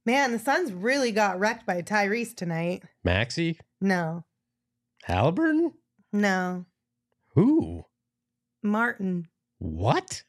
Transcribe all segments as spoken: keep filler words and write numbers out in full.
Man, the Suns really got wrecked by Tyrese tonight. Maxey? No. Halliburton? No. Who? Martin. What?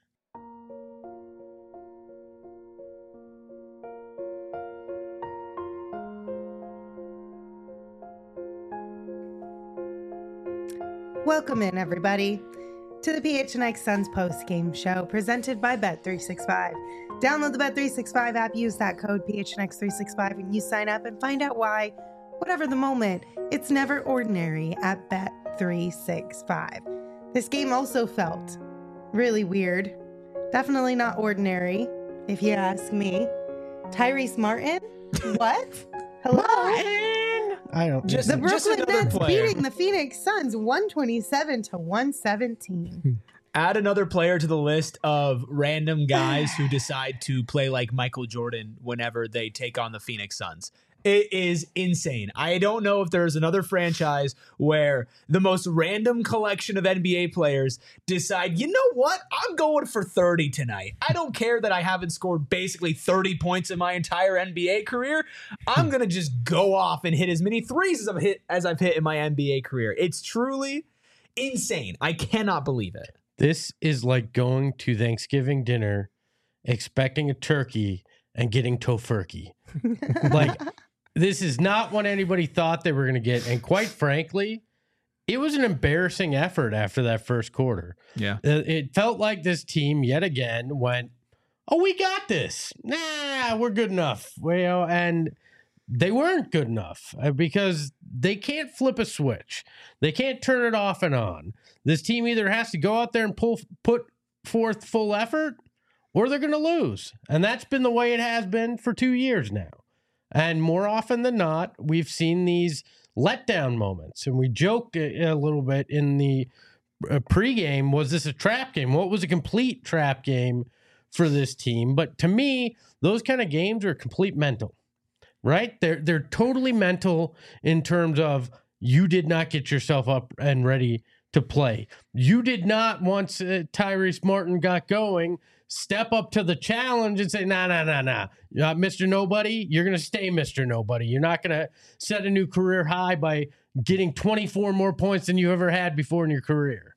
Welcome in, everybody, to the P H N X Suns post-game show presented by Bet three sixty-five. Download the Bet three sixty-five app, use that code P H N X three sixty-five, and you sign up and find out why, whatever the moment, it's never ordinary at Bet three sixty-five. This game also felt really weird. Definitely not ordinary, if you ask me. Tyrese Martin? What? Hello? Martin! I don't Just, the Brooklyn just Nets player. beating the Phoenix Suns one twenty-seven to one seventeen. Add another player to the list of random guys who decide to play like Michael Jordan whenever they take on the Phoenix Suns. It is insane. I don't know if there's another franchise where the most random collection of N B A players decide, you know what? I'm going for thirty tonight. I don't care that I haven't scored basically thirty points in my entire N B A career. I'm going to just go off and hit as many threes as I've hit as I've hit in my N B A career. It's truly insane. I cannot believe it. This is like going to Thanksgiving dinner, expecting a turkey, and getting tofurkey. Like, this is not what anybody thought they were going to get. And quite frankly, it was an embarrassing effort after that first quarter. Yeah. Uh, It felt like this team yet again went, oh, we got this. Nah, we're good enough. Well, you know, and they weren't good enough uh, because they can't flip a switch. They can't turn it off and on. This team either has to go out there and pull put forth full effort or they're going to lose. And that's been the way it has been for two years now. And more often than not, we've seen these letdown moments. And we joked a, a little bit in the uh, pregame, was this a trap game? What was a complete trap game for this team? But to me, those kind of games are complete mental, right? They're, they're totally mental in terms of you did not get yourself up and ready to play. You did not, once uh, Tyrese Martin got going, step up to the challenge and say, nah, nah, nah, nah. Uh, Mister Nobody, you're going to stay Mister Nobody. You're not going to set a new career high by getting twenty-four more points than you ever had before in your career.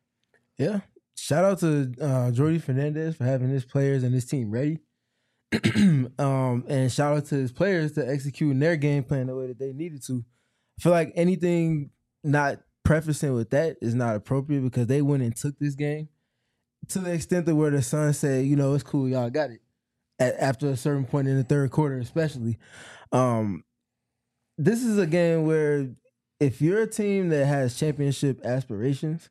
Yeah. Shout out to uh, Jordy Fernandez for having his players and his team ready. um, and shout out to his players to executing their game plan the way that they needed to. I feel like anything not prefacing with that is not appropriate because they went and took this game to the extent that where the Suns said, you know, it's cool, y'all got it. At, after a certain point in the third quarter, especially. Um, this is a game where if you're a team that has championship aspirations,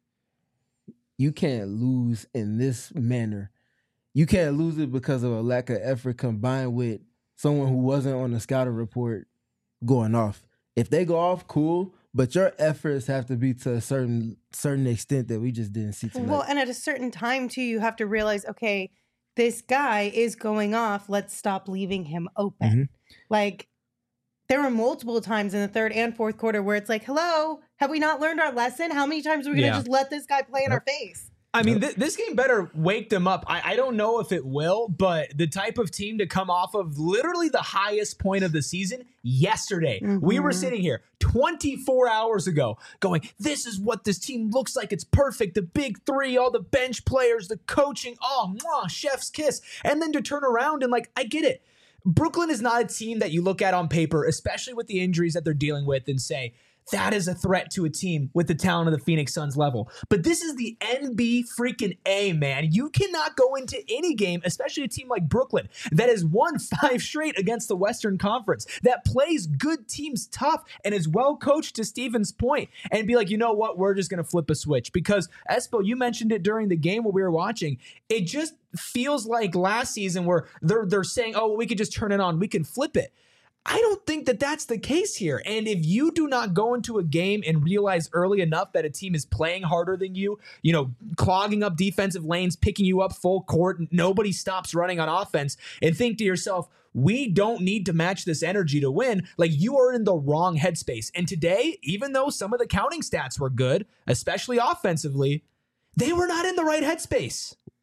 you can't lose in this manner. You can't lose it because of a lack of effort combined with someone who wasn't on the scouting report going off. If they go off, cool, but your efforts have to be to a certain certain extent that we just didn't see tonight. Well, and at a certain time, too, you have to realize, okay, this guy is going off. Let's stop leaving him open. Mm-hmm. Like, there were multiple times in the third and fourth quarter where it's like, hello, have we not learned our lesson? How many times are we going to Yeah. just let this guy play in Yep. our face? I mean, th- this game better wake them up. I-, I don't know if it will, but the type of team to come off of literally the highest point of the season yesterday. Mm-hmm. We were sitting here twenty-four hours ago going, this is what this team looks like. It's perfect. The big three, all the bench players, the coaching, oh, mwah, chef's kiss. And then to turn around and like, I get it. Brooklyn is not a team that you look at on paper, especially with the injuries that they're dealing with, and say, that is a threat to a team with the talent of the Phoenix Suns level. But this is the N B freaking A, man. You cannot go into any game, especially a team like Brooklyn, that has won five straight against the Western Conference, that plays good teams tough and is well coached to Steven's point, and be like, you know what, we're just going to flip a switch. Because, Espo, you mentioned it during the game when we were watching, it just feels like last season where they're, they're saying, oh, well, we could just turn it on, we can flip it. I don't think that that's the case here. And if you do not go into a game and realize early enough that a team is playing harder than you, you know, clogging up defensive lanes, picking you up full court, nobody stops running on offense, and think to yourself, we don't need to match this energy to win, like, you are in the wrong headspace. And today, even though some of the counting stats were good, especially offensively, they were not in the right headspace.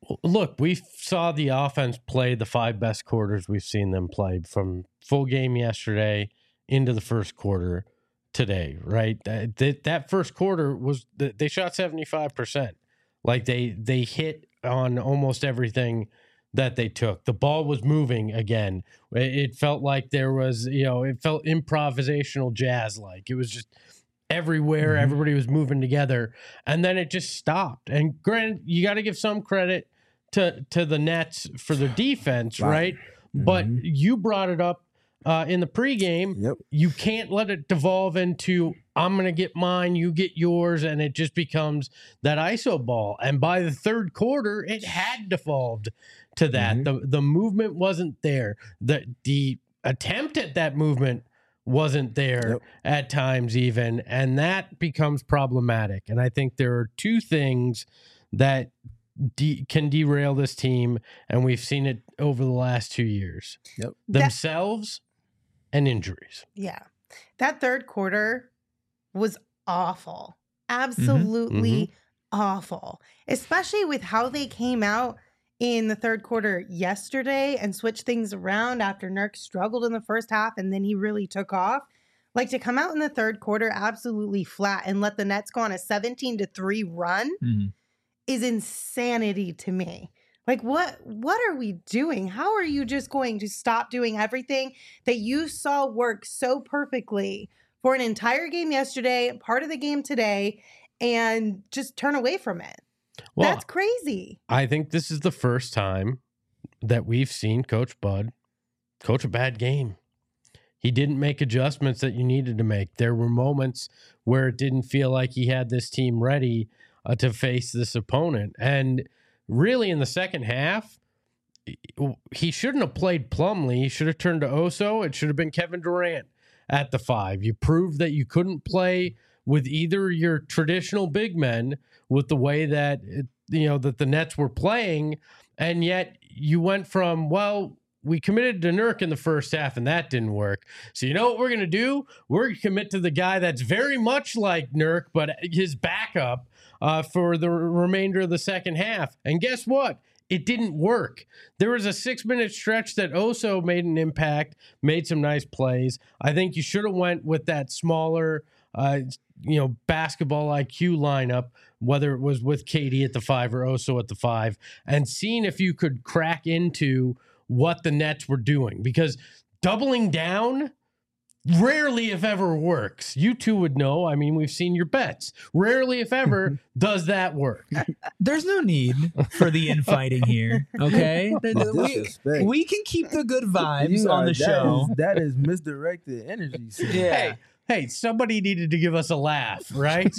Look, we saw the offense play the five best quarters we've seen them play from full game yesterday into the first quarter today, right? That, that first quarter was, they shot seventy-five percent. Like they, they hit on almost everything that they took. The ball was moving again. It felt like there was, you know, it felt improvisational jazz like. It was just everywhere. Mm-hmm. Everybody was moving together. And then it just stopped. And granted, you got to give some credit to to the Nets for their defense, wow. right? Mm-hmm. But you brought it up uh, in the pregame. Yep. You can't let it devolve into, I'm going to get mine, you get yours, and it just becomes that I S O ball. And by the third quarter, it had devolved to that. Mm-hmm. The the movement wasn't there. The the attempt at that movement wasn't there yep. at times even, and that becomes problematic. And I think there are two things that De- can derail this team, and we've seen it over the last two years. Yep. Themselves that, and injuries. Yeah. That third quarter was awful. Absolutely mm-hmm. awful. Especially with how they came out in the third quarter yesterday and switched things around after Nurk struggled in the first half and then he really took off. Like to come out in the third quarter absolutely flat and let the Nets go on a seventeen to three run. Mm-hmm. is insanity to me. Like, what what are we doing? How are you just going to stop doing everything that you saw work so perfectly for an entire game yesterday, part of the game today, and just turn away from it? Well, that's crazy. I think this is the first time that we've seen Coach Bud coach a bad game. He didn't make adjustments that you needed to make. There were moments where it didn't feel like he had this team ready Uh, to face this opponent. And really in the second half, he shouldn't have played Plumlee. He should have turned to Oso. It should have been Kevin Durant at the five. You proved that you couldn't play with either your traditional big men with the way that, it, you know, that the Nets were playing. And yet you went from, well, we committed to Nurk in the first half, and that didn't work. So you know what we're going to do? We're going to commit to the guy that's very much like Nurk, but his backup uh, for the remainder of the second half. And guess what? It didn't work. There was a six-minute stretch that Oso made an impact, made some nice plays. I think you should have went with that smaller, uh, you know, basketball I Q lineup, whether it was with K D at the five or Oso at the five, and seeing if you could crack into what the Nets were doing, because doubling down rarely, if ever, works. You two would know. I mean, we've seen your bets. Rarely, if ever, does that work. There's no need for the infighting here, okay? we, we can keep the good vibes on the that show. Is, that is misdirected energy. So. Yeah. Hey, hey, somebody needed to give us a laugh, right?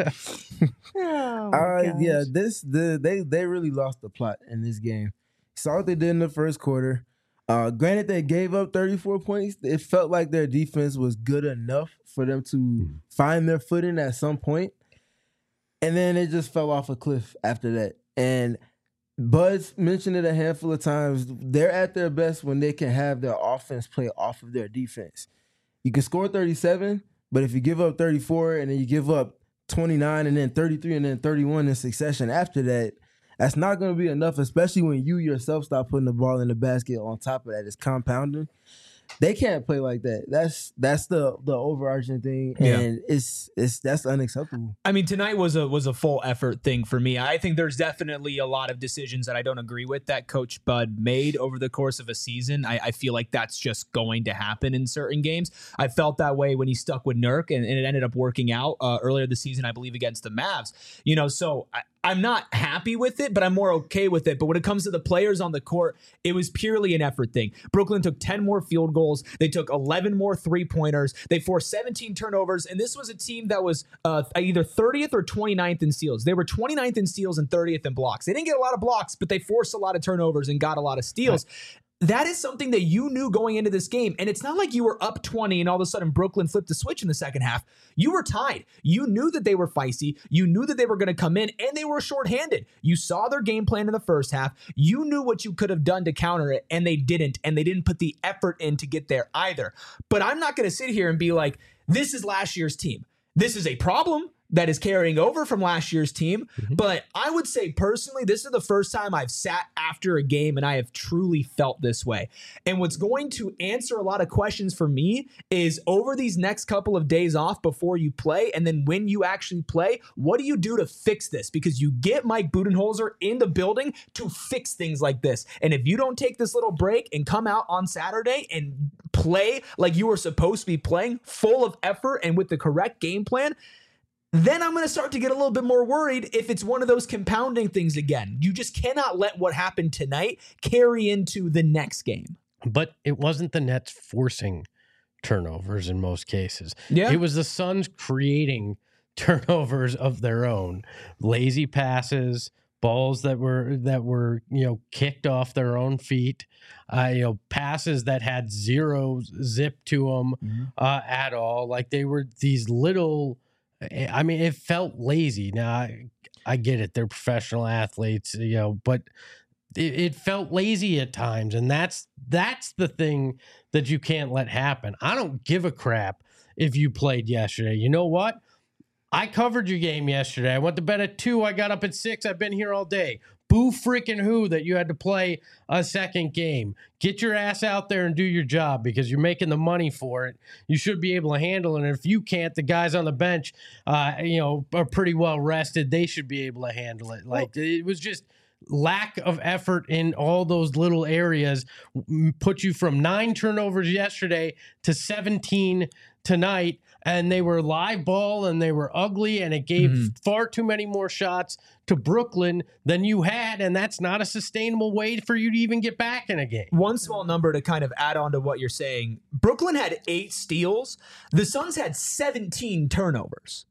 oh, uh, yeah, this the they they really lost the plot in this game. Saw what they did in the first quarter. Uh, granted, they gave up thirty-four points. It felt like their defense was good enough for them to mm. find their footing at some point. And then it just fell off a cliff after that. And Bud's mentioned it a handful of times. They're at their best when they can have their offense play off of their defense. You can score thirty-seven, but if you give up thirty-four and then you give up twenty-nine and then thirty-three and then thirty-one in succession after that, that's not going to be enough, especially when you yourself start putting the ball in the basket on top of that. It's compounding. They can't play like that. That's that's the the overarching thing, and yeah. it's it's that's unacceptable. I mean, tonight was a was a full effort thing for me. I think there's definitely a lot of decisions that I don't agree with that Coach Bud made over the course of a season. I, I feel like that's just going to happen in certain games. I felt that way when he stuck with Nurk, and, and it ended up working out uh, earlier this season, I believe, against the Mavs. You know, so I, I'm not happy with it, but I'm more okay with it. But when it comes to the players on the court, it was purely an effort thing. Brooklyn took ten more field goals. They took eleven more three-pointers. They forced seventeen turnovers. And this was a team that was uh, either thirtieth or twenty-ninth in steals. They were twenty-ninth in steals and thirtieth in blocks. They didn't get a lot of blocks, but they forced a lot of turnovers and got a lot of steals. Right. That is something that you knew going into this game. And it's not like you were up twenty and all of a sudden Brooklyn flipped the switch in the second half. You were tied. You knew that they were feisty. You knew that they were going to come in, and they were shorthanded. You saw their game plan in the first half. You knew what you could have done to counter it, and they didn't. And they didn't put the effort in to get there either. But I'm not going to sit here and be like, this is last year's team. this is a problem that is carrying over from last year's team. Mhm. But I would say personally, this is the first time I've sat after a game and I have truly felt this way. And what's going to answer a lot of questions for me is over these next couple of days off before you play, and then when you actually play, what do you do to fix this? Because you get Mike Budenholzer in the building to fix things like this. And if you don't take this little break and come out on Saturday and play like you were supposed to be playing, full of effort and with the correct game plan, then I'm going to start to get a little bit more worried if it's one of those compounding things again. You just cannot let what happened tonight carry into the next game. But it wasn't the Nets forcing turnovers in most cases. Yeah. It was the Suns creating turnovers of their own. Lazy passes, balls that were that were, you know, kicked off their own feet, uh, you know, passes that had zero zip to them Mm-hmm. uh, at all. Like they were these little, I mean, it felt lazy. Now, I, I get it. They're professional athletes, you know, but it, it felt lazy at times. And that's that's the thing that you can't let happen. I don't give a crap if you played yesterday. You know what? I covered your game yesterday. I went to bed at two. I got up at six. I've been here all day. Boo freaking who that you had to play a second game. Get your ass out there and do your job because you're making the money for it. You should be able to handle it. And if you can't, the guys on the bench, uh, you know, are pretty well rested. They should be able to handle it. Like it was just lack of effort in all those little areas. Put you from nine turnovers yesterday to seventeen tonight, and they were live ball and they were ugly, and it gave Mm-hmm. far too many more shots to Brooklyn than you had, and that's not a sustainable way for you to even get back in a game. One small number to kind of add on to what you're saying. Brooklyn had eight steals. The Suns had seventeen turnovers.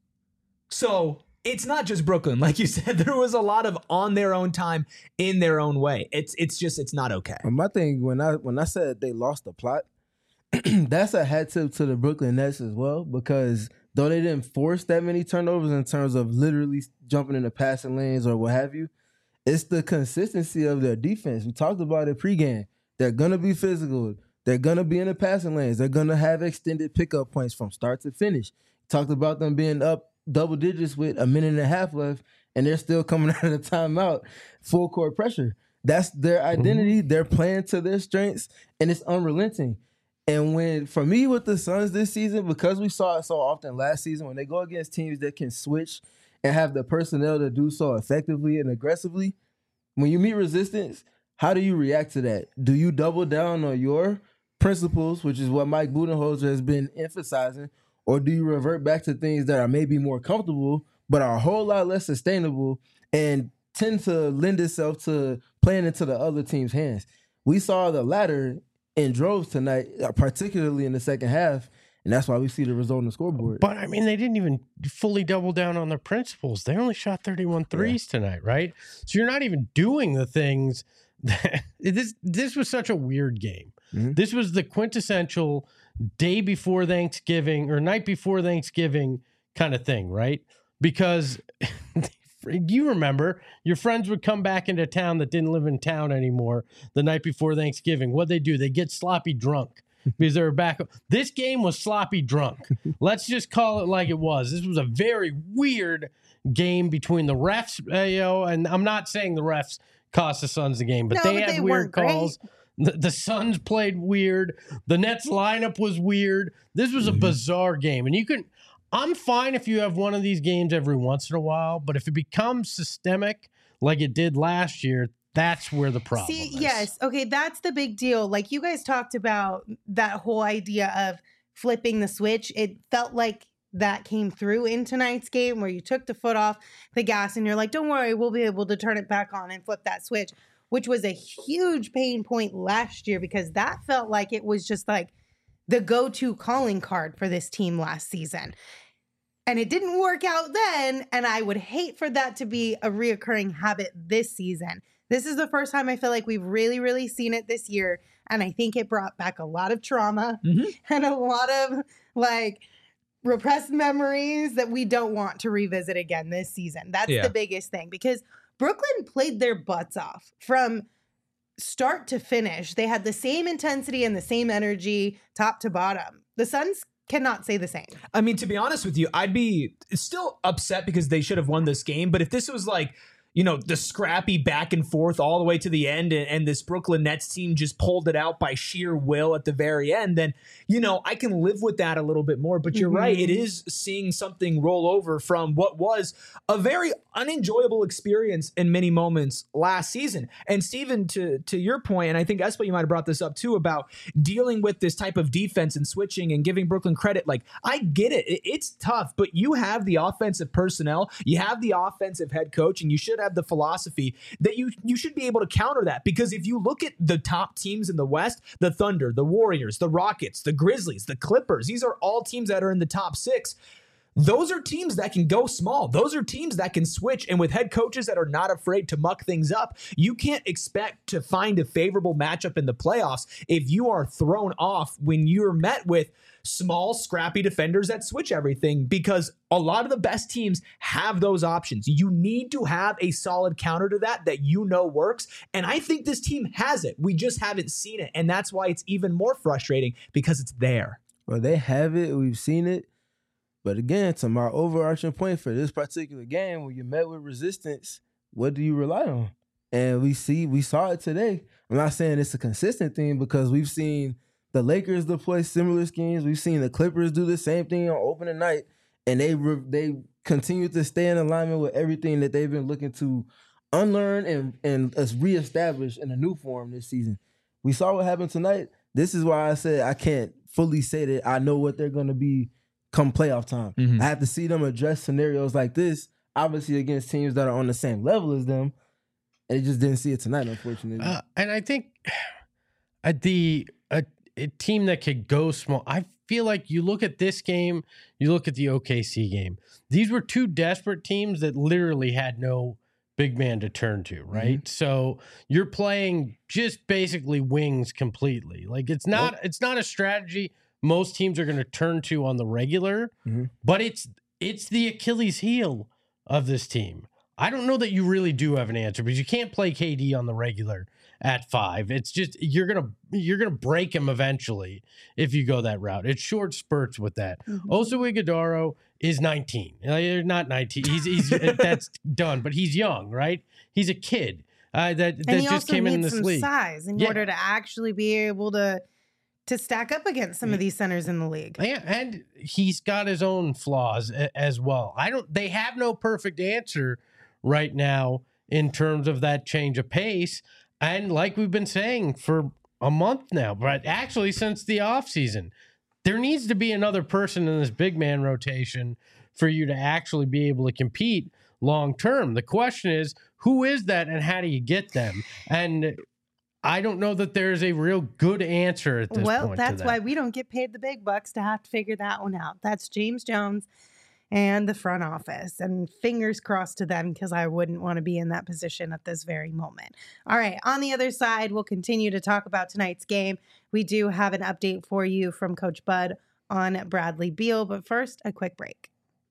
So it's not just Brooklyn. Like you said, there was a lot of on their own time in their own way. It's it's just, it's not okay. And my thing, when I when I said they lost the plot, that's a hat tip to the Brooklyn Nets as well, because though they didn't force that many turnovers in terms of literally jumping in the passing lanes or what have you, it's the consistency of their defense. We talked about it pregame. They're going to be physical. They're going to be in the passing lanes. They're going to have extended pickup points from start to finish. Talked about them being up double digits with a minute and a half left, and they're still coming out of the timeout, full court pressure. That's their identity. Mm-hmm. They're playing to their strengths, and it's unrelenting. And when, for me with the Suns this season, because we saw it so often last season, when they go against teams that can switch and have the personnel to do so effectively and aggressively, when you meet resistance, how do you react to that? Do you double down on your principles, which is what Mike Budenholzer has been emphasizing, or do you revert back to things that are maybe more comfortable but are a whole lot less sustainable and tend to lend itself to playing into the other team's hands? We saw the latter in droves tonight, particularly in the second half, and that's why we see the result on the scoreboard. But, I mean, they didn't even fully double down on their principles. They only shot thirty-one threes yeah. tonight, right? So you're not even doing the things that – this this was such a weird game. Mm-hmm. This was the quintessential day before Thanksgiving or night before Thanksgiving kind of thing, right? Because – you remember your friends would come back into town that didn't live in town anymore the night before Thanksgiving. What'd they do? They get sloppy drunk because they were back. This game was sloppy drunk. Let's just call it like it was. This was a very weird game between the refs, uh, you know, and I'm not saying the refs cost the Suns the game, but no, they but had they weird calls. Great. The, the Suns played weird. The Nets lineup was weird. This was a mm-hmm. bizarre game. And you can... I'm fine if you have one of these games every once in a while, but if it becomes systemic like it did last year, that's where the problem See, is. Yes. Okay, that's the big deal. Like you guys talked about that whole idea of flipping the switch. It felt like that came through in tonight's game where you took the foot off the gas and you're like, don't worry, we'll be able to turn it back on and flip that switch, which was a huge pain point last year because that felt like it was just like the go-to calling card for this team last season. And it didn't work out then, and I would hate for that to be a reoccurring habit this season. This is the first time I feel like we've really, really seen it this year, and I think it brought back a lot of trauma mm-hmm. and a lot of, like, repressed memories that we don't want to revisit again this season. That's yeah. the biggest thing, because Brooklyn played their butts off from start to finish. They had the same intensity and the same energy top to bottom. The Suns cannot say the same. I mean, to be honest with you, I'd be still upset because they should have won this game. But if this was like, you know, the scrappy back and forth all the way to the end, and, and this Brooklyn Nets team just pulled it out by sheer will at the very end, then, you know, I can live with that a little bit more. But you're mm-hmm. right. It is seeing something roll over from what was a very unenjoyable experience in many moments last season. And Steven, to, to your point, and I think Espo, you might have brought this up too, about dealing with this type of defense and switching and giving Brooklyn credit. Like, I get it. it it's tough, but you have the offensive personnel, you have the offensive head coach, and you should have the philosophy that you you should be able to counter that. Because if you look at the top teams in the West, the Thunder, the Warriors, the Rockets, the Grizzlies, the Clippers, these are all teams that are in the top six. Those are teams that can go small. Those are teams that can switch. And with head coaches that are not afraid to muck things up, you can't expect to find a favorable matchup in the playoffs if you are thrown off when you're met with small, scrappy defenders that switch everything, because a lot of the best teams have those options. You need to have a solid counter to that that you know works. And I think this team has it. We just haven't seen it. And that's why it's even more frustrating, because it's there. Well, they have it. We've seen it. But again, to my overarching point for this particular game, when you're met with resistance, what do you rely on? And we see, we saw it today. I'm not saying it's a consistent thing, because we've seen the Lakers deploy similar schemes. We've seen the Clippers do the same thing on opening night, and they re- they continue to stay in alignment with everything that they've been looking to unlearn and and uh, reestablish in a new form this season. We saw what happened tonight. This is why I said I can't fully say that I know what they're going to be come playoff time. Mm-hmm. I have to see them address scenarios like this, obviously against teams that are on the same level as them. And they just didn't see it tonight, unfortunately. Uh, and I think at the a, a team that could go small, I feel like you look at this game, you look at the O K C game. These were two desperate teams that literally had no big man to turn to, right? Mm-hmm. So you're playing just basically wings completely. Like it's not, nope. it's not a strategy most teams are going to turn to on the regular, mm-hmm. but it's it's the Achilles heel of this team. I don't know that you really do have an answer, because you can't play K D on the regular at five. It's just you're gonna you're gonna break him eventually if you go that route. It's short spurts with that. Mm-hmm. Oso Ighodaro is nineteen. Not nineteen. He's he's that's done, but he's young, right? He's a kid uh, that that and just came in this some league. Size in yeah. order to actually be able to. to stack up against some of these centers in the league. Yeah, and he's got his own flaws a- as well. I don't they have no perfect answer right now in terms of that change of pace. And like we've been saying for a month now, but actually since the offseason, there needs to be another person in this big man rotation for you to actually be able to compete long term. The question is, who is that and how do you get them? And I don't know that there's a real good answer at this well, point. Well, that's that. why we don't get paid the big bucks to have to figure that one out. That's James Jones and the front office. And fingers crossed to them, because I wouldn't want to be in that position at this very moment. All right, on the other side, we'll continue to talk about tonight's game. We do have an update for you from Coach Bud on Bradley Beal. But first, a quick break.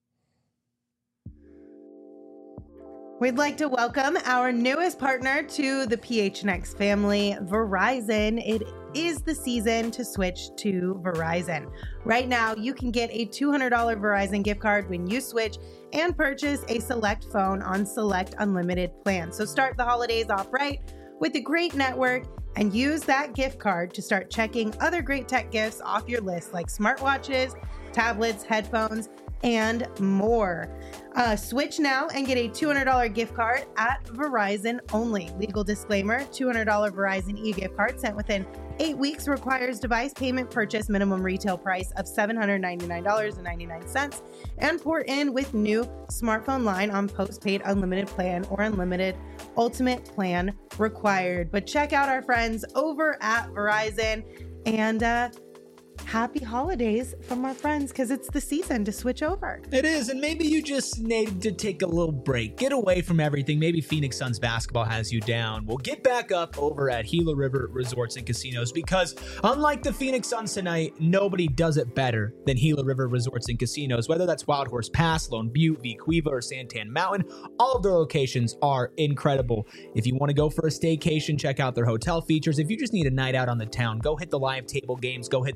We'd like to welcome our newest partner to the P H N X family, Verizon. It is the season to switch to Verizon. Right now, you can get a two hundred dollars Verizon gift card when you switch and purchase a select phone on select unlimited plans. So start the holidays off right with a great network and use that gift card to start checking other great tech gifts off your list, like smartwatches, tablets, headphones, and more. Uh, switch now and get a two hundred dollars gift card at Verizon only. Legal disclaimer, two hundred dollars Verizon e-gift card sent within eight weeks requires device payment purchase minimum retail price of seven hundred ninety-nine dollars and ninety-nine cents and port in with new smartphone line on postpaid unlimited plan or unlimited ultimate plan required. But check out our friends over at Verizon and uh, happy holidays from our friends, because it's the season to switch over. It is, and maybe you just need to take a little break. Get away from everything. Maybe Phoenix Suns basketball has you down. Well, get back up over at Gila River Resorts and Casinos, because unlike the Phoenix Suns tonight, nobody does it better than Gila River Resorts and Casinos. Whether that's Wild Horse Pass, Lone Butte, Vicuiva, or Santan Mountain, all of their locations are incredible. If you want to go for a staycation, check out their hotel features. If you just need a night out on the town, go hit the live table games, go hit the sports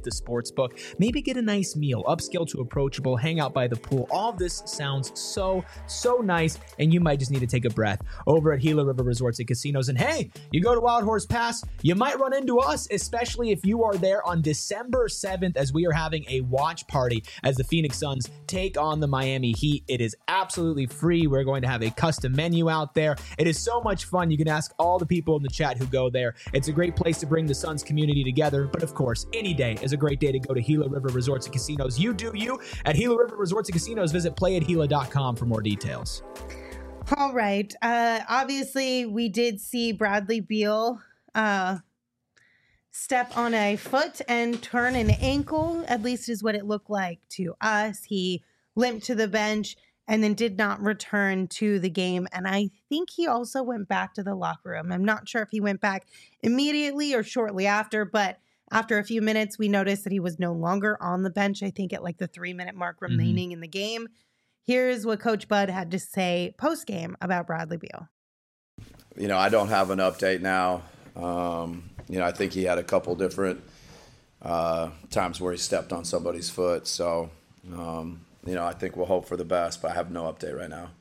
Sportsbook. Maybe get a nice meal, upscale to approachable, hang out by the pool. All of this sounds so, so nice, and you might just need to take a breath over at Gila River Resorts and Casinos. And hey, you go to Wild Horse Pass, you might run into us, especially if you are there on December seventh as we are having a watch party as the Phoenix Suns take on the Miami Heat. It is absolutely free. We're going to have a custom menu out there. It is so much fun. You can ask all the people in the chat who go there. It's a great place to bring the Suns community together. But of course, any day is a great day to go to Gila River Resorts and Casinos. You do you at Gila River Resorts and Casinos. Visit play at gila dot com for more details. All right. Uh, obviously, we did see Bradley Beal uh, step on a foot and turn an ankle, at least is what it looked like to us. He limped to the bench and then did not return to the game. And I think he also went back to the locker room. I'm not sure if he went back immediately or shortly after, but after a few minutes, we noticed that he was no longer on the bench, I think at like the three minute mark remaining mm-hmm. in the game. Here's what Coach Bud had to say post-game about Bradley Beal. You know, I don't have an update now. Um, you know, I think he had a couple different uh, times where he stepped on somebody's foot. So, um, you know, I think we'll hope for the best, but I have no update right now.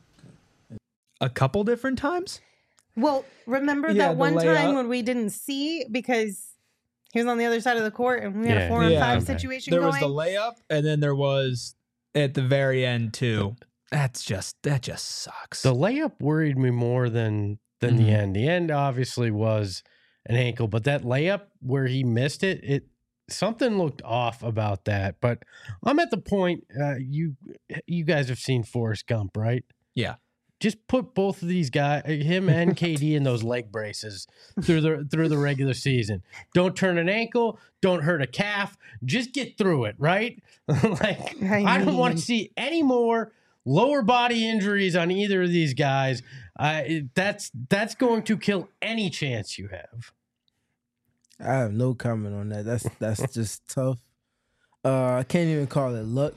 A couple different times? Well, remember yeah, that one time when we didn't see because he was on the other side of the court and we had yeah. a four and yeah. five okay. situation there going? Was the layup, and then there was... at the very end too. That's just that just sucks. The layup worried me more than than mm-hmm. the end. The end obviously was an ankle, but that layup where he missed it, it something looked off about that. But I'm at the point uh, you you guys have seen Forrest Gump, right? Yeah. Just put both of these guys, him and K D, in those leg braces through the through the regular season. Don't turn an ankle. Don't hurt a calf. Just get through it, right? like I, I don't want to see any more lower body injuries on either of these guys. Uh, that's that's going to kill any chance you have. I have no comment on that. That's that's just tough. Uh, I can't even call it luck.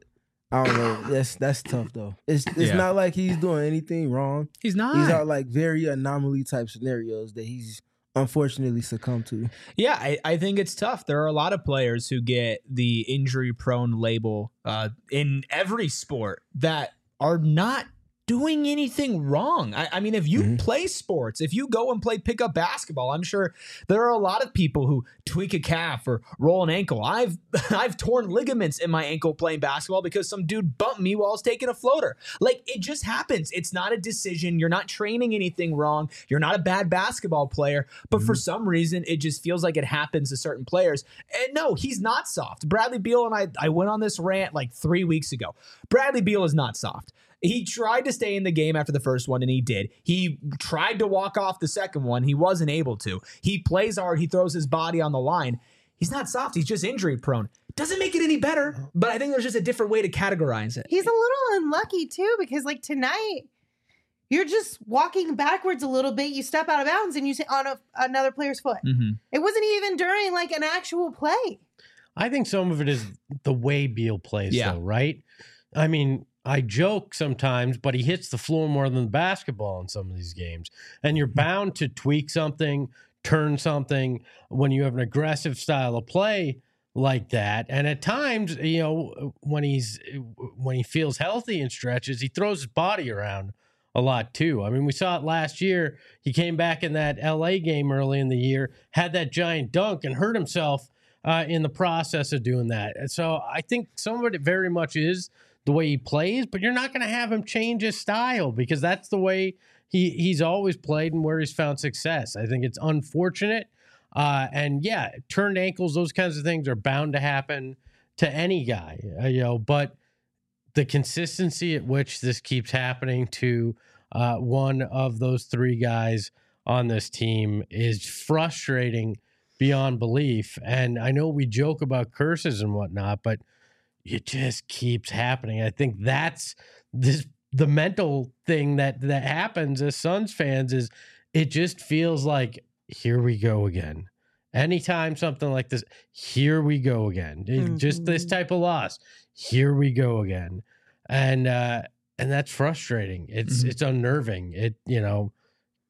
I don't know. That's that's tough though. It's it's yeah. not like he's doing anything wrong. He's not. These are like very anomaly type scenarios that he's unfortunately succumbed to. Yeah, I, I think it's tough. There are a lot of players who get the injury prone label uh, in every sport that are not doing anything wrong. I, I mean, if you mm-hmm. play sports, if you go and play pickup basketball, I'm sure there are a lot of people who tweak a calf or roll an ankle. I've I've torn ligaments in my ankle playing basketball because some dude bumped me while I was taking a floater. Like, it just happens. It's not a decision. You're not training anything wrong. You're not a bad basketball player, but mm-hmm. for some reason, it just feels like it happens to certain players. And no, he's not soft. Bradley Beal and I, I went on this rant like three weeks ago. Bradley Beal is not soft. He tried to stay in the game after the first one, and he did. He tried to walk off the second one. He wasn't able to. He plays hard. He throws his body on the line. He's not soft. He's just injury prone. Doesn't make it any better, but I think there's just a different way to categorize it. He's a little unlucky, too, because, like, tonight, you're just walking backwards a little bit. You step out of bounds, and you sit on a, another player's foot. Mm-hmm. It wasn't even during, like, an actual play. I think some of it is the way Beal plays, yeah. though, right? I mean... I joke sometimes, but he hits the floor more than the basketball in some of these games. And you're bound to tweak something, turn something when you have an aggressive style of play like that. And at times, you know, when he's when he feels healthy and stretches, he throws his body around a lot too. I mean, we saw it last year. He came back in that L A game early in the year, had that giant dunk and hurt himself uh, in the process of doing that. And so I think some of it very much is the way he plays, but you're not going to have him change his style because that's the way he he's always played and where he's found success. I think it's unfortunate. Uh, and yeah, turned ankles, those kinds of things are bound to happen to any guy, uh, you know, but the consistency at which this keeps happening to uh, one of those three guys on this team is frustrating beyond belief. And I know we joke about curses and whatnot, but it just keeps happening. I think that's this the mental thing that that happens as Suns fans is it just feels like here we go again. Anytime something like this, here we go again. Mm-hmm. Just this type of loss, here we go again, and uh, and that's frustrating. It's mm-hmm. it's unnerving. It you know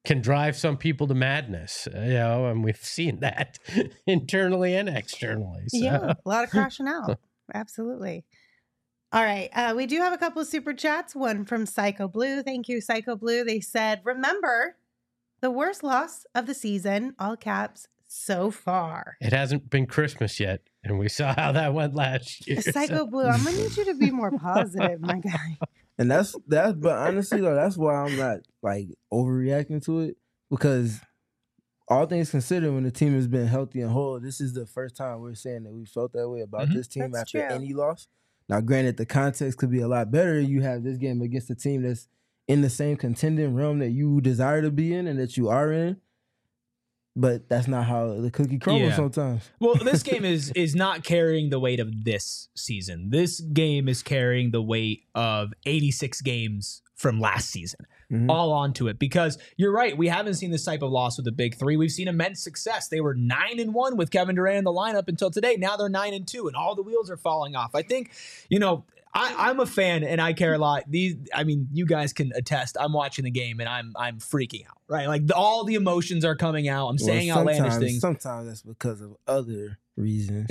can drive some people to madness, you know, and we've seen that internally and externally. So. Yeah, a lot of crashing out. Absolutely. All right. Uh, we do have a couple of super chats. One from Psycho Blue. Thank you, Psycho Blue. They said, remember the worst loss of the season, all caps, so far. It hasn't been Christmas yet, and we saw how that went last year. Psycho so. Blue, I'm going to need you to be more positive, my guy. And that's that's but honestly though, that's why I'm not like overreacting to it, because all things considered, when the team has been healthy and whole, this is the first time we're saying that we felt that way about Mhm. this team That's after true. any loss. Now, granted, the context could be a lot better. You have this game against a team that's in the same contending realm that you desire to be in and that you are in. But that's not how the cookie crumbles Yeah. sometimes. Well, this game is is not carrying the weight of this season. This game is carrying the weight of eighty-six games from last season, Mhm. all onto it. Because you're right, we haven't seen this type of loss with the big three. We've seen immense success. They were nine and one with Kevin Durant in the lineup until today. Now they're nine and two, and all the wheels are falling off. I think, you know. I, I'm a fan and I care a lot. These, I mean, you guys can attest. I'm watching the game and I'm I'm freaking out, right? Like the, all the emotions are coming out. I'm saying Well, outlandish sometimes- things. Sometimes that's because of other reasons.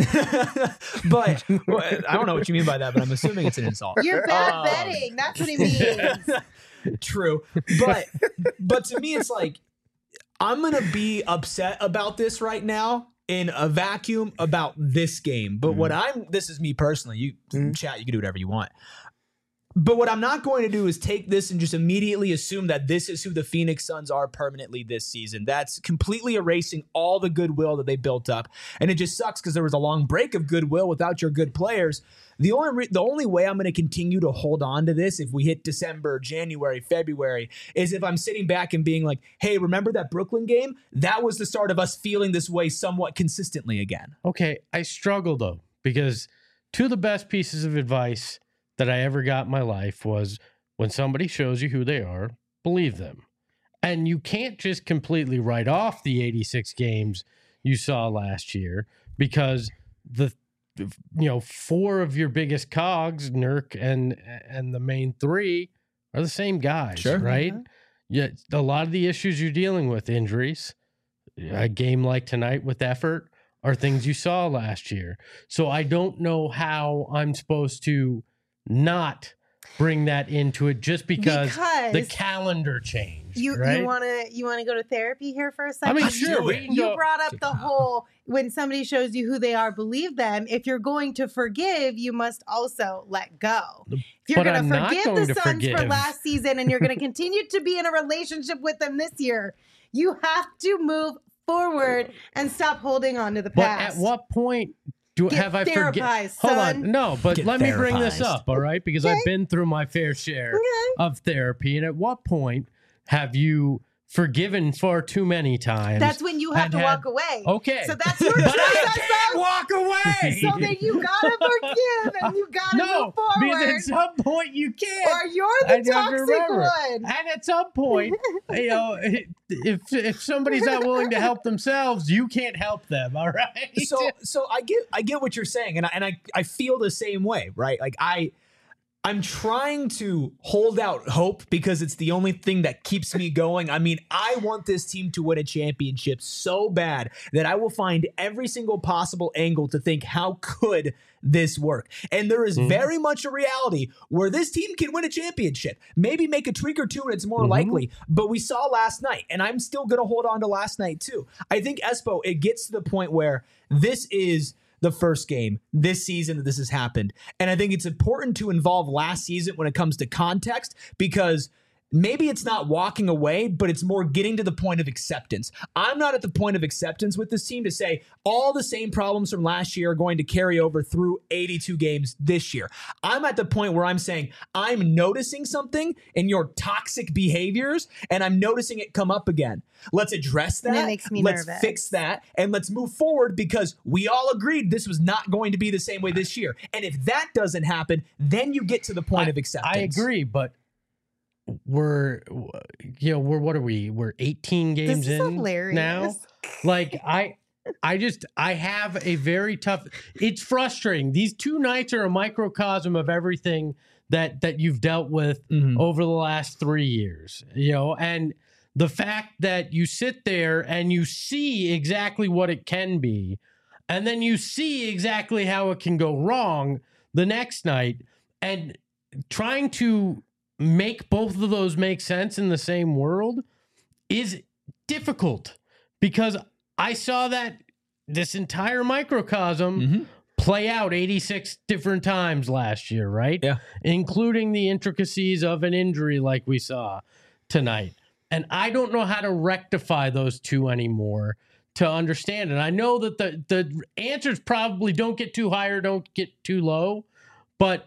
but well, I don't know what you mean by that, but I'm assuming it's an insult. You're bad Um, betting. That's what he means. True. But but to me it's like I'm going to be upset about this right now in a vacuum about this game. But what I'm this is me personally. You Mhm. chat, you can do whatever you want. But what I'm not going to do is take this and just immediately assume that this is who the Phoenix Suns are permanently this season. That's completely erasing all the goodwill that they built up. And it just sucks because there was a long break of goodwill without your good players. The only re- the only way I'm going to continue to hold on to this if we hit December, January, February is if I'm sitting back and being like, hey, remember that Brooklyn game? That was the start of us feeling this way somewhat consistently again. Okay, I struggle though, because two of the best pieces of advice that I ever got in my life was when somebody shows you who they are, believe them. And you can't just completely write off the eighty-six games you saw last year because the you know four of your biggest cogs, Nurk and and the main three, are the same guys, Sure. right? Mhm. Yeah, a lot of the issues you're dealing with, injuries, a game like tonight with effort, are things you saw last year. So I don't know how I'm supposed to not bring that into it just because, Because the calendar changed. You right? you want to you want to go to therapy here for a I second? mean, Let's sure. do We it. can You go- brought up the whole when somebody shows you who they are, believe them. If you're going to forgive, you must also let go. If you're But going I'm to not forgive going the to Suns for forgive. last season and you're going to continue to be in a relationship with them this year, you have to move forward and stop holding on to the But past. at what point do Get have I forget? therapized, Hold son. on, no. But Get let me bring this therapized. up, all right? Because Okay. I've been through my fair share Okay. of therapy, and at what point have you forgiven far too many times? That's when you have and to had- walk away. Okay, So that's your but choice. I as can't a- walk away. So then you gotta forgive and you gotta no, move because forward. at some point you can't. Or you're the I have to toxic remember. one. And at some point, you know, if if somebody's not willing to help themselves, you can't help them. All right. So so I get I get what you're saying, and I and I, I feel the same way, right? Like I I'm trying to hold out hope because it's the only thing that keeps me going. I mean, I want this team to win a championship so bad that I will find every single possible angle to think, how could this work? And there is Mhm. very much a reality where this team can win a championship. Maybe make a tweak or two and it's more Mhm. likely. But we saw last night, and I'm still going to hold on to last night too. I think, Espo, it gets to the point where this is the first game this season that this has happened. And I think it's important to involve last season when it comes to context, because maybe it's not walking away, but it's more getting to the point of acceptance. I'm not at the point of acceptance with this team to say all the same problems from last year are going to carry over through eighty-two games this year. I'm at the point where I'm saying I'm noticing something in your toxic behaviors, and I'm noticing it come up again. Let's address And that. it makes me let's nervous. fix that, and let's move forward, because we all agreed this was not going to be the same way this year. And if that doesn't happen, then you get to the point I- of acceptance. I agree, but we're you know we're what are we? We're eighteen games This is in hilarious. now. Like I. I just, I have a very tough, it's frustrating. These two nights are a microcosm of everything that, that you've dealt with Mhm. over the last three years, you know, and the fact that you sit there and you see exactly what it can be, and then you see exactly how it can go wrong the next night, and trying to make both of those make sense in the same world is difficult, because I saw that this entire microcosm mm-hmm. play out eighty-six different times last year, right? Yeah. Including the intricacies of an injury like we saw tonight. And I don't know how to rectify those two anymore to understand it. I know that the, the answers probably don't get too high or don't get too low, but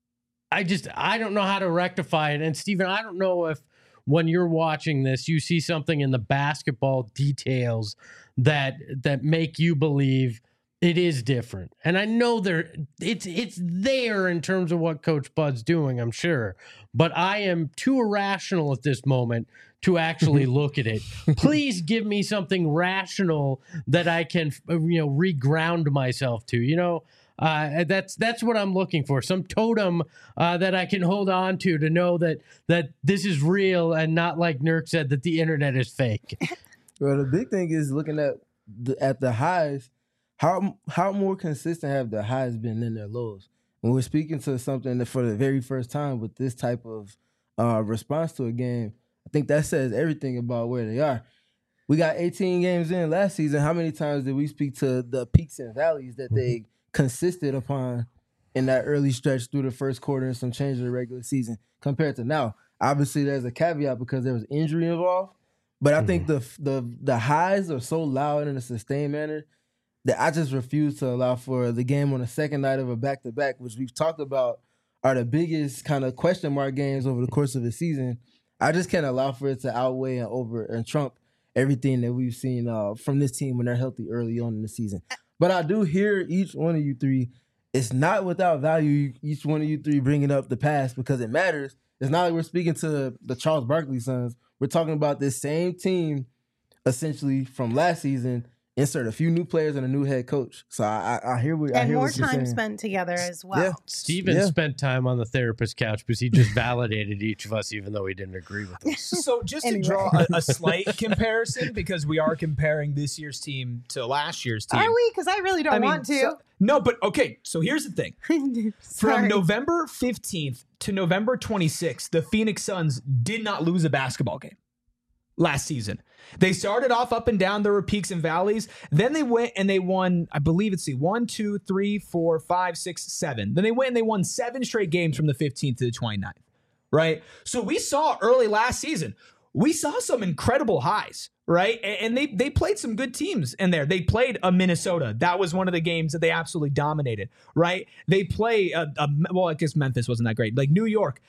I just, I don't know how to rectify it. And Stephen, I don't know if when you're watching this, you see something in the basketball details that that make you believe it is different. And I know there it's it's there in terms of what Coach Bud's doing, I'm sure. But I am too irrational at this moment to actually look at it. Please give me something rational that I can, you know, reground myself to. You know, uh, that's that's what I'm looking for. Some totem uh, that I can hold on to to know that that this is real and not, like Nurk said, that the internet is fake. Well, the big thing is looking at the, at the highs. How how more consistent have the highs been than their lows? When we're speaking to something that for the very first time with this type of uh, response to a game, I think that says everything about where they are. We got eighteen games in last season. How many times did we speak to the peaks and valleys that they consisted upon in that early stretch through the first quarter and some change in the regular season compared to now? Obviously, there's a caveat because there was injury involved. But I think the the the highs are so loud in a sustained manner that I just refuse to allow for the game on the second night of a back-to-back, which we've talked about are the biggest kind of question mark games over the course of the season. I just can't allow for it to outweigh and over and trump everything that we've seen uh, from this team when they're healthy early on in the season. But I do hear each one of you three. It's not without value, each one of you three bringing up the past, because it matters. It's not like we're speaking to the Charles Barkley Sons. We're talking about this same team, essentially, from last season. Insert a few new players and a new head coach. So I, I, I hear what I and hear more what you're time saying. spent together as well. Yeah. Steven Yeah. spent time on the therapist couch because he just validated each of us, even though he didn't agree with us. So just Anyway. to draw a, a slight comparison, because we are comparing this year's team to last year's team. Are we? Because I really don't I mean, want to. so- no, but okay. So here's the thing. Sorry. From November fifteenth to November twenty-sixth, the Phoenix Suns did not lose a basketball game last season. They started off up and down. There were peaks and valleys. Then they went and they won, I believe it's see, one, two, three, four, five, six, seven. Then they went and they won seven straight games from the fifteenth to the twenty-ninth, right? So we saw early last season, we saw some incredible highs, right? And they they played some good teams in there. They played a Minnesota. That was one of the games that they absolutely dominated, right? They play, a, a, well, I guess Memphis wasn't that great. Like New York.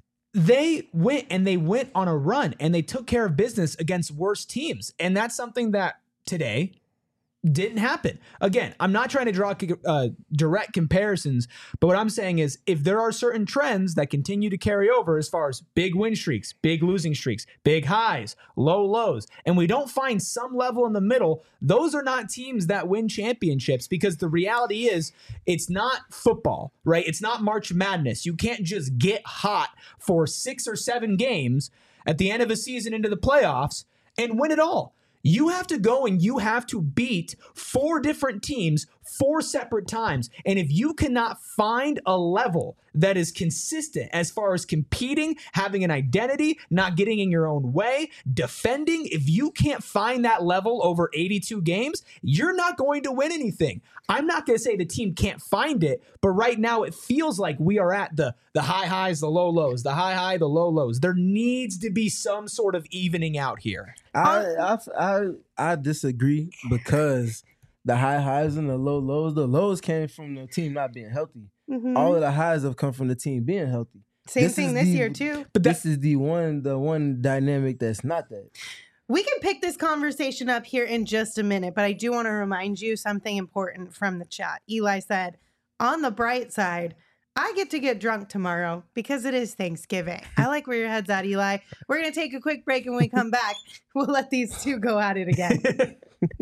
They went and they went on a run and they took care of business against worse teams. And that's something that today didn't happen. Again, I'm not trying to draw uh, direct comparisons, but what I'm saying is if there are certain trends that continue to carry over as far as big win streaks, big losing streaks, big highs, low lows, and we don't find some level in the middle, those are not teams that win championships, because the reality is it's not football, right? It's not March Madness. You can't just get hot for six or seven games at the end of a season into the playoffs and win it all. You have to go and you have to beat four different teams four separate times. And if you cannot find a level that is consistent as far as competing, having an identity, not getting in your own way, defending, if you can't find that level over eighty-two games, you're not going to win anything. I'm not going to say the team can't find it, but right now it feels like we are at the, the high highs, the low lows, the high high, the low lows. There needs to be some sort of evening out here. I, I I I disagree, because the high highs and the low lows, the lows came from the team not being healthy. Mhm. All of the highs have come from the team being healthy. Same This thing is this the- year, too. But this is the one the one dynamic that's not that. We can pick this conversation up here in just a minute, but I do want to remind you something important from the chat. Eli said, on the bright side, I get to get drunk tomorrow because it is Thanksgiving. I like where your head's at, Eli. We're going to take a quick break, and when we come back, we'll let these two go at it again.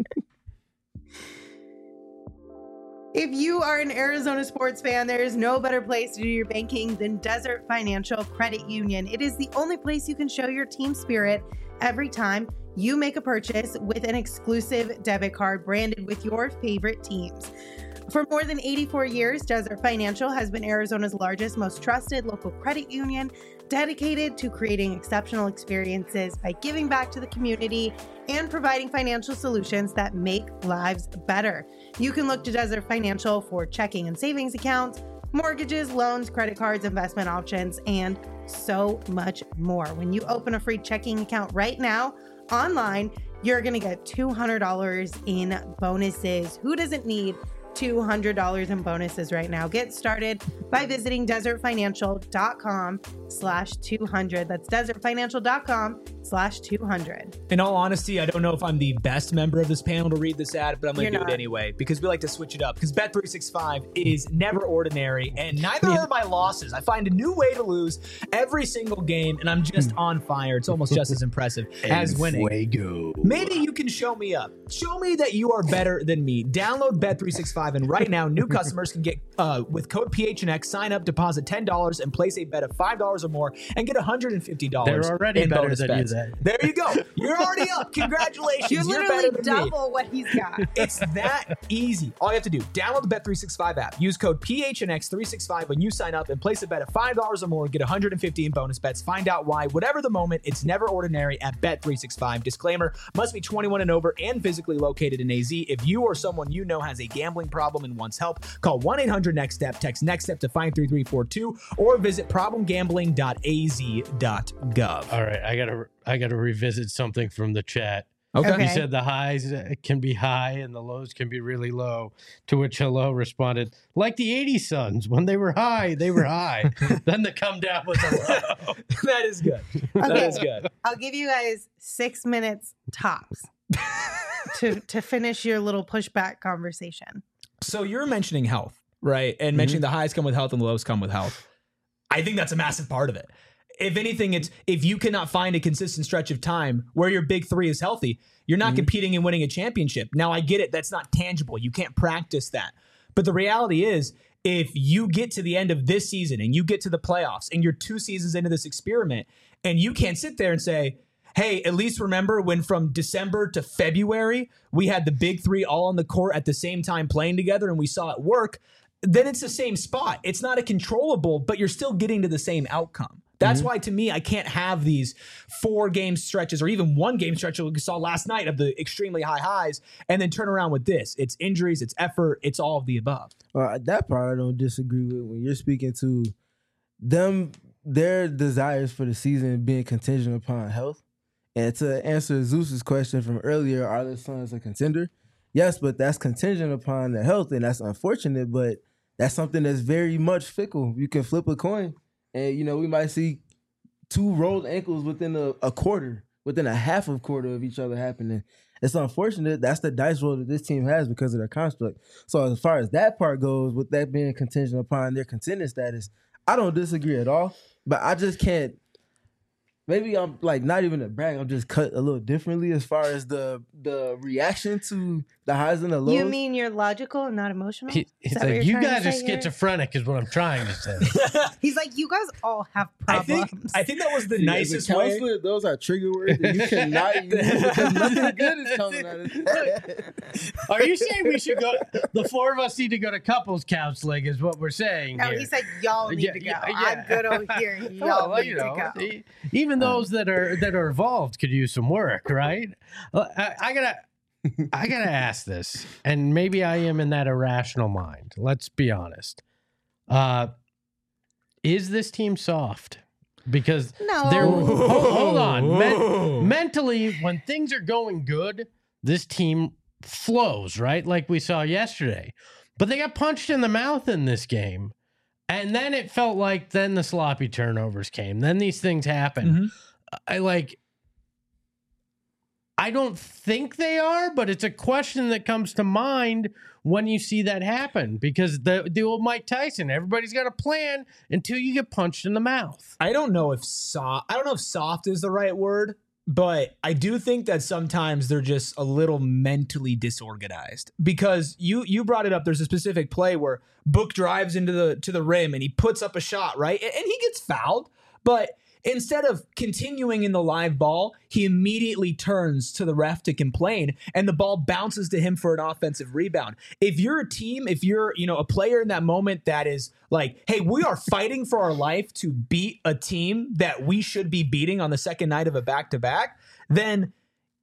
If you are an Arizona sports fan, there is no better place to do your banking than Desert Financial Credit Union. It is the only place you can show your team spirit every time you make a purchase with an exclusive debit card branded with your favorite teams. For more than eighty-four years, Desert Financial has been Arizona's largest, most trusted local credit union, dedicated to creating exceptional experiences by giving back to the community and providing financial solutions that make lives better. You can look to Desert Financial for checking and savings accounts, mortgages, loans, credit cards, investment options, and so much more. When you open a free checking account right now online, you're going to get two hundred dollars in bonuses. Who doesn't need two hundred dollars in bonuses right now? Get started by visiting desertfinancial.com slash 200. That's desertfinancial.com slash 200. In all honesty, I don't know if I'm the best member of this panel to read this ad, but I'm going to You're do not. it anyway because we like to switch it up. Because Bet three sixty-five is never ordinary, and neither are my losses. I find a new way to lose every single game, and I'm just on fire. It's almost just as impressive as winning. Fuego. Maybe you can show me up. Show me that you are better than me. Download Bet three sixty-five, and right now, new customers can get, uh, with code P H N X, sign up, deposit ten dollars, and place a bet of five dollars or more, and get one hundred fifty dollars They're already in better bonus than you bets. then. There you go. You're already up. Congratulations. You You're literally better than me. double what he's got. It's that easy. All you have to do, download the Bet three sixty-five app. Use code P H N X three sixty-five when you sign up and place a bet of five dollars or more. Get one hundred fifty in bonus bets. Find out why. Whatever the moment, it's never ordinary at Bet three sixty-five. Disclaimer, must be twenty-one and over and physically located in A Z. If you or someone you know has a gambling problem and wants help, call one eight hundred next step, text NEXTSTEP to five three three four two, or visit problem gambling dot a z dot gov. All right, I gotta I gotta revisit something from the chat. Okay. Okay. He said the highs uh, can be high and the lows can be really low. To which Hello responded, like the eighties Suns, when they were high, they were high. Then the come down was a low. That is good. That Okay. is good. I'll give you guys six minutes tops to to finish your little pushback conversation. So you're mentioning health, right? And mentioning the highs come with health and the lows come with health. I think that's a massive part of it. If anything, it's if you cannot find a consistent stretch of time where your big three is healthy, you're not competing and winning a championship. Now, I get it. That's not tangible. You can't practice that. But the reality is, if you get to the end of this season and you get to the playoffs and you're two seasons into this experiment and you can't sit there and say, hey, at least remember when from December to February, we had the big three all on the court at the same time playing together and we saw it work, then it's the same spot. It's not a controllable, but you're still getting to the same outcome. That's mm-hmm. why, to me, I can't have these four game stretches or even one game stretch like we saw last night of the extremely high highs and then turn around with this. It's injuries, it's effort, it's all of the above. Uh, that part I don't disagree with. When you're speaking to them, their desires for the season being contingent upon health. And to answer Zeus's question from earlier, are the Suns a contender? Yes, but that's contingent upon the health, and that's unfortunate, but that's something that's very much fickle. You can flip a coin, and, you know, we might see two rolled ankles within a, a quarter, within a half of quarter of each other happening. It's unfortunate. That's the dice roll that this team has because of their construct. So as far as that part goes, with that being contingent upon their contender status, I don't disagree at all, but I just can't. Maybe I'm like not even a brag. I'm just cut a little differently as far as the the reaction to the highs and the lows. You mean you're logical and not emotional? He, Is he's that what like, you're you trying guys to are say here?" schizophrenic, is what I'm trying to say. He's like, you guys all have I problems. think I think that was the See, nicest as a way. counselor, those are trigger words that you cannot use because nothing good is coming out of it. Are you saying we should go? The four of us need to go to couples counseling, is what we're saying No, here. he said y'all need Yeah, to go. yeah, yeah. I'm good over here. Y'all Well, need you to know, go. e- even those that are that are involved could use some work, right? Uh, I, I gotta, I gotta ask this, and maybe I am in that irrational mind. Let's be honest. Uh, is this team soft? Because No. they're hold, hold on. Men- mentally, when things are going good, this team flows, right? Like we saw yesterday. But they got punched in the mouth in this game. And then it felt like then the sloppy turnovers came. Then these things happen. Mm-hmm. I like I don't think they are, but it's a question that comes to mind when you see that happen. Because the the old Mike Tyson, everybody's got a plan until you get punched in the mouth. I don't know if soft. I don't know if soft is the right word, but I do think that sometimes they're just a little mentally disorganized. Because you you brought it up. There's a specific play where Book drives into the to the rim and he puts up a shot, right, and, and he gets fouled, but Instead of continuing in the live ball, he immediately turns to the ref to complain, and the ball bounces to him for an offensive rebound. If you're a team, if you're, you know, a player in that moment that is like, hey, we are fighting for our life to beat a team that we should be beating on the second night of a back-to-back, then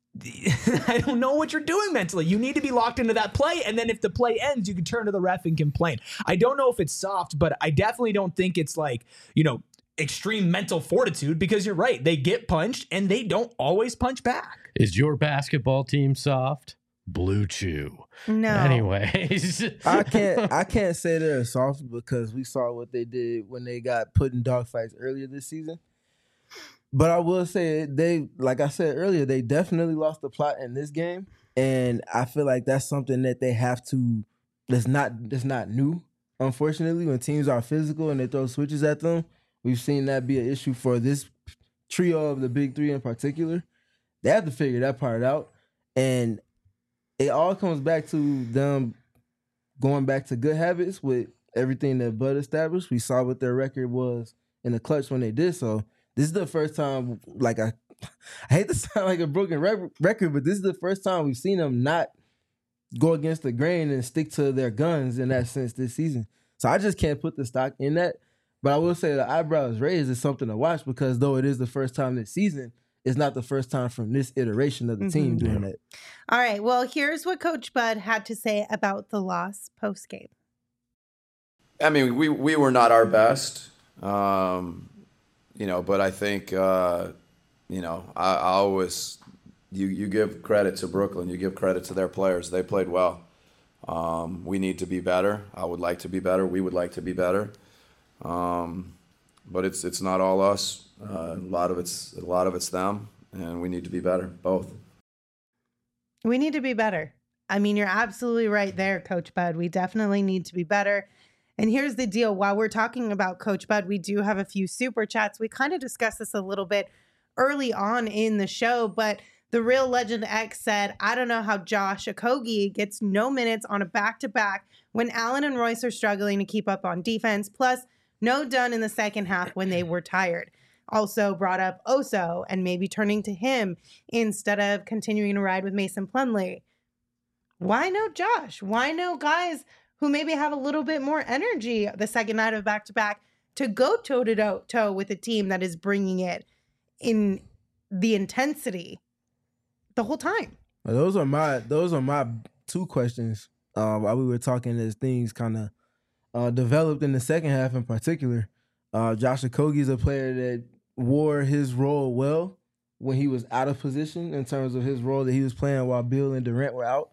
I don't know what you're doing mentally. You need to be locked into that play, and then if the play ends, you can turn to the ref and complain. I don't know if it's soft, but I definitely don't think it's like, you know, extreme mental fortitude, because you're right. They get punched and they don't always punch back. Is your basketball team soft? Blue Chew. No. Anyways. I can't I can't say they're soft because we saw what they did when they got put in dogfights earlier this season. But I will say they, like I said earlier, they definitely lost the plot in this game. And I feel like that's something that they have to, that's not that's not new, unfortunately. When teams are physical and they throw switches at them, we've seen that be an issue for this trio of the big three in particular. They have to figure that part out. And it all comes back to them going back to good habits with everything that Bud established. We saw what their record was in the clutch when they did so. This is the first time, like, I, I hate to sound like a broken rec- record, but this is the first time we've seen them not go against the grain and stick to their guns in that sense this season. So I just can't put the stock in that. But I will say the eyebrows raised is something to watch, because though it is the first time this season, it's not the first time from this iteration of the Mm-hmm. team doing that. All right. Well, here's what Coach Bud had to say about the loss post-game. I mean, we, we were not our best, um, you know, but I think, uh, you know, I, I always, you, you give credit to Brooklyn, you give credit to their players. They played well. Um, we need to be better. I would like to be better. We would like to be better. Um, but it's it's not all us. Uh, a lot of it's a lot of it's them, and we need to be better, both. We need to be better. I mean, you're absolutely right there, Coach Bud. We definitely need to be better. And here's the deal. While we're talking about Coach Bud, we do have a few super chats. We kind of discussed this a little bit early on in the show, but the Real Legend X said, I don't know how Josh Okogie gets no minutes on a back-to-back when Allen and Royce are struggling to keep up on defense, plus no done in the second half when they were tired. Also brought up Oso and maybe turning to him instead of continuing to ride with Mason Plumlee. Why no Josh? Why no guys who maybe have a little bit more energy the second night of back-to-back to go toe-to-toe with a team that is bringing it in the intensity the whole time? Well, those are my those are my two questions uh, while we were talking as things kind of uh, developed in the second half in particular. Uh, Josh Okogie is a player that wore his role well when he was out of position in terms of his role that he was playing while Bill and Durant were out.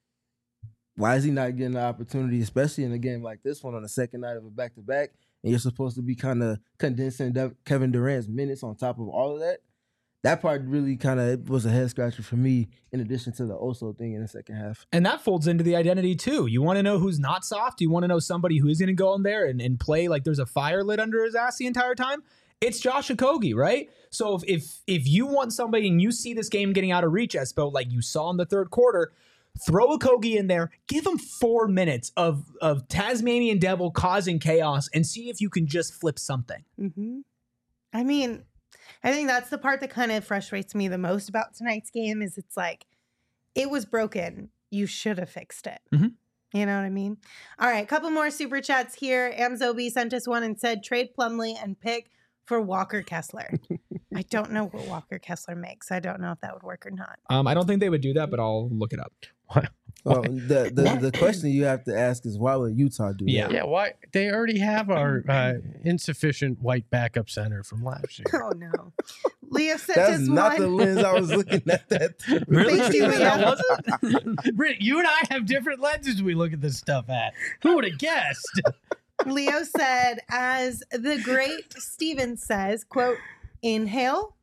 Why is he not getting the opportunity, especially in a game like this one on the second night of a back-to-back, and you're supposed to be kind of condensing De- Kevin Durant's minutes on top of all of that? That part really kind of was a head-scratcher for me, in addition to the Oso thing in the second half. And that folds into the identity, too. You want to know who's not soft? You want to know somebody who is going to go in there and, and play like there's a fire lit under his ass the entire time? It's Josh Okogie, right? So if, if if you want somebody and you see this game getting out of reach, Espo, like you saw in the third quarter, throw Okogie in there, give him four minutes of, of Tasmanian Devil causing chaos, and see if you can just flip something. Mm-hmm. I mean, I think that's the part that kind of frustrates me the most about tonight's game is it's like, it was broken. You should have fixed it. Mm-hmm. You know what I mean? All right, a couple more super chats here. Amzobi sent us one and said, trade Plumlee and pick for Walker Kessler. I don't know what Walker Kessler makes. I don't know if that would work or not. Um, I don't think they would do that, but I'll look it up. What? Well, the, the the question you have to ask is, why would Utah do Yeah. that? Yeah, why? They already have our uh, insufficient white backup center from last year. Oh, no. Leah sent That's us not one. the lens I was looking at that through. Really? Thank you, That Leah. wasn't? Rick, you and I have different lenses we look at this stuff at. Who would have guessed? Leo said, as the great Steven says, quote, inhale,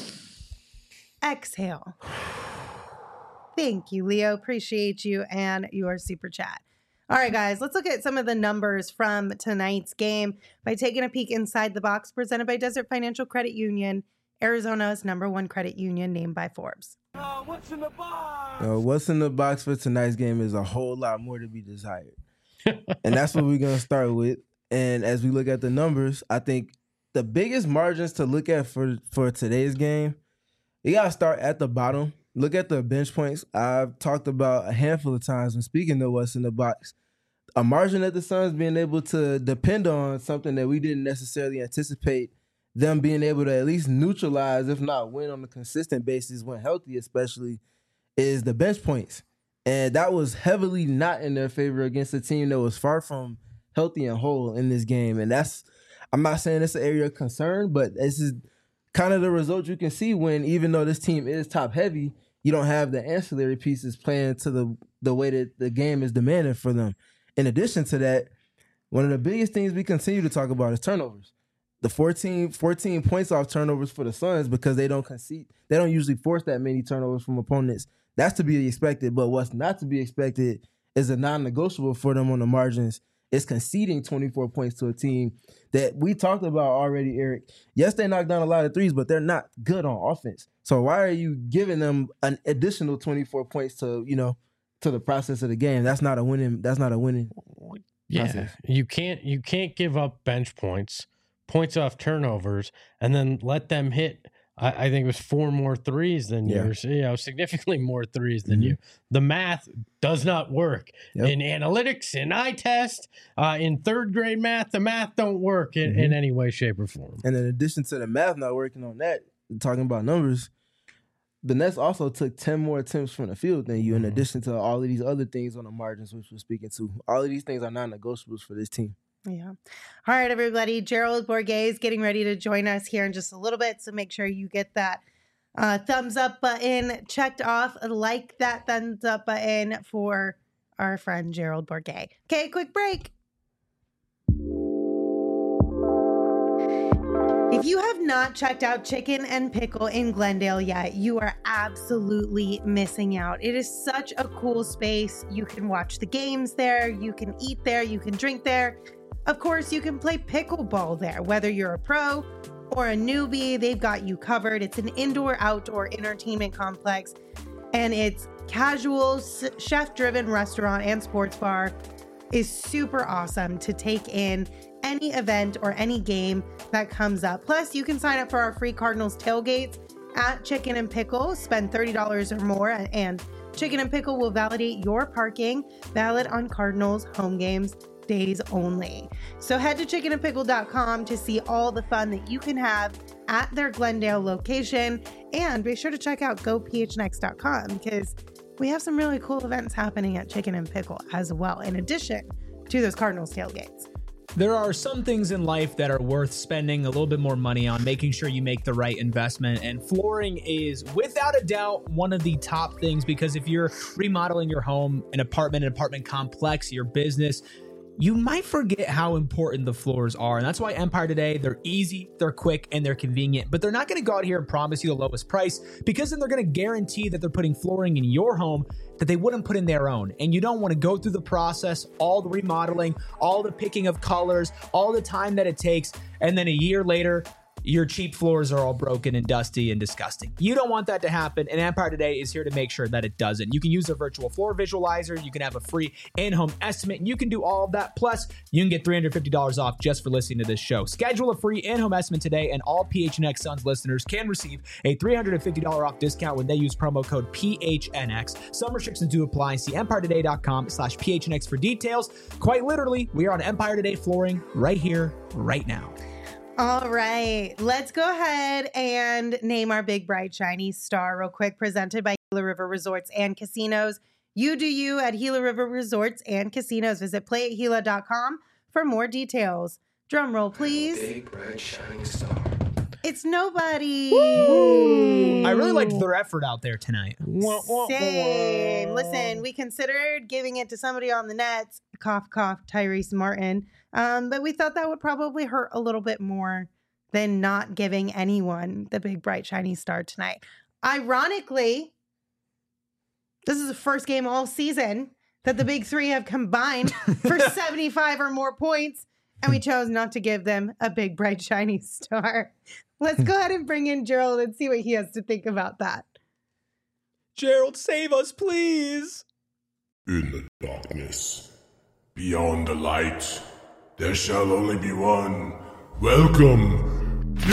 exhale. Thank you, Leo. Appreciate you and your super chat. All right, guys, let's look at some of the numbers from tonight's game by taking a peek inside the box presented by Desert Financial Credit Union, Arizona's number one credit union named by Forbes. Uh, what's in the box? Uh, what's in the box for tonight's game is a whole lot more to be desired. And that's what we're going to start with. And as we look at the numbers, I think the biggest margins to look at for, for today's game, you got to start at the bottom. Look at the bench points. I've talked about a handful of times when speaking of what's in the box. A margin at the Suns being able to depend on something that we didn't necessarily anticipate them being able to at least neutralize, if not win on a consistent basis when healthy especially, is the bench points. And that was heavily not in their favor against a team that was far from healthy and whole in this game. And that's, I'm not saying it's an area of concern, but this is kind of the result you can see when, even though this team is top heavy, you don't have the ancillary pieces playing to the, the way that the game is demanding for them. In addition to that, one of the biggest things we continue to talk about is turnovers. The fourteen, fourteen points off turnovers for the Suns because they don't concede. They don't usually force that many turnovers from opponents. That's to be expected. But what's not to be expected is a non-negotiable for them on the margins. It's conceding twenty-four points to a team that we talked about already, Eric. Yes, they knocked down a lot of threes, but they're not good on offense. So why are you giving them an additional twenty-four points to, you know, to the process of the game? That's not a winning. That's not a winning. Yeah, process. you can't you can't give up bench points, points off turnovers, and then let them hit. I, I think it was four more threes than Yeah. yours. You know, significantly more threes than Mhm. you. The math does not work Yep. in analytics, in eye test, uh, in third grade math. The math don't work in, in Mhm. any way, shape, or form. And in addition to the math not working on that, talking about numbers, the Nets also took ten more attempts from the field than you, in Mhm. addition to all of these other things on the margins, which we're speaking to. All of these things are non-negotiables for this team. Yeah. All right, everybody. Gerald Bourguet is getting ready to join us here in just a little bit. So make sure you get that uh, thumbs up button checked off. Like that thumbs up button for our friend Gerald Bourguet. Okay, quick break. If you have not checked out Chicken and Pickle in Glendale yet, you are absolutely missing out. It is such a cool space. You can watch the games there, you can eat there, you can drink there. Of course, you can play pickleball there. Whether you're a pro or a newbie, they've got you covered. It's an indoor-outdoor entertainment complex, and its casual, chef-driven restaurant and sports bar is super awesome to take in any event or any game that comes up. Plus, you can sign up for our free Cardinals tailgates at Chicken and Pickle. Spend thirty dollars or more, and Chicken and Pickle will validate your parking, valid on Cardinals home games days only. So head to chicken and pickle dot com to see all the fun that you can have at their Glendale location, and be sure to check out go p h n x dot com because we have some really cool events happening at Chicken and Pickle as well, in addition to those Cardinals tailgates. There are some things in life that are worth spending a little bit more money on, making sure you make the right investment. And flooring is without a doubt one of the top things, because if you're remodeling your home, an apartment, an apartment complex, your business, you might forget how important the floors are. And that's why Empire Today, they're easy, they're quick, and they're convenient. But they're not going to go out here and promise you the lowest price, because then they're going to guarantee that they're putting flooring in your home that they wouldn't put in their own. And you don't want to go through the process, all the remodeling, all the picking of colors, all the time that it takes, and then a year later, your cheap floors are all broken and dusty and disgusting. You don't want that to happen, and Empire Today is here to make sure that it doesn't. You can use their virtual floor visualizer, you can have a free in-home estimate, and you can do all of that. Plus, you can get three hundred fifty dollars off just for listening to this show. Schedule a free in-home estimate today, and all P H N X Suns listeners can receive a three hundred fifty dollars off discount when they use promo code P H N X. Some restrictions do apply. See empire today dot com slash P H N X for details. Quite literally, we are on Empire Today flooring right here, right now. All right, let's go ahead and name our big, bright, shiny star real quick, presented by Gila River Resorts and Casinos. You do you at Gila River Resorts and Casinos. Visit play at gila dot com for more details. Drum roll, please. Big, bright, shining star. It's nobody. Woo! I really liked their effort out there tonight. Same. Listen, we considered giving it to somebody on the Nets, cough, cough, Tyrese Martin. Um, but we thought that would probably hurt a little bit more than not giving anyone the big, bright, shiny star tonight. Ironically, this is the first game all season that the big three have combined for seventy-five or more points, and we chose not to give them a big, bright, shiny star. Let's go ahead and bring in Gerald and see what he has to think about that. Gerald, save us, please. In the darkness, beyond the light, there shall only be one Welcome to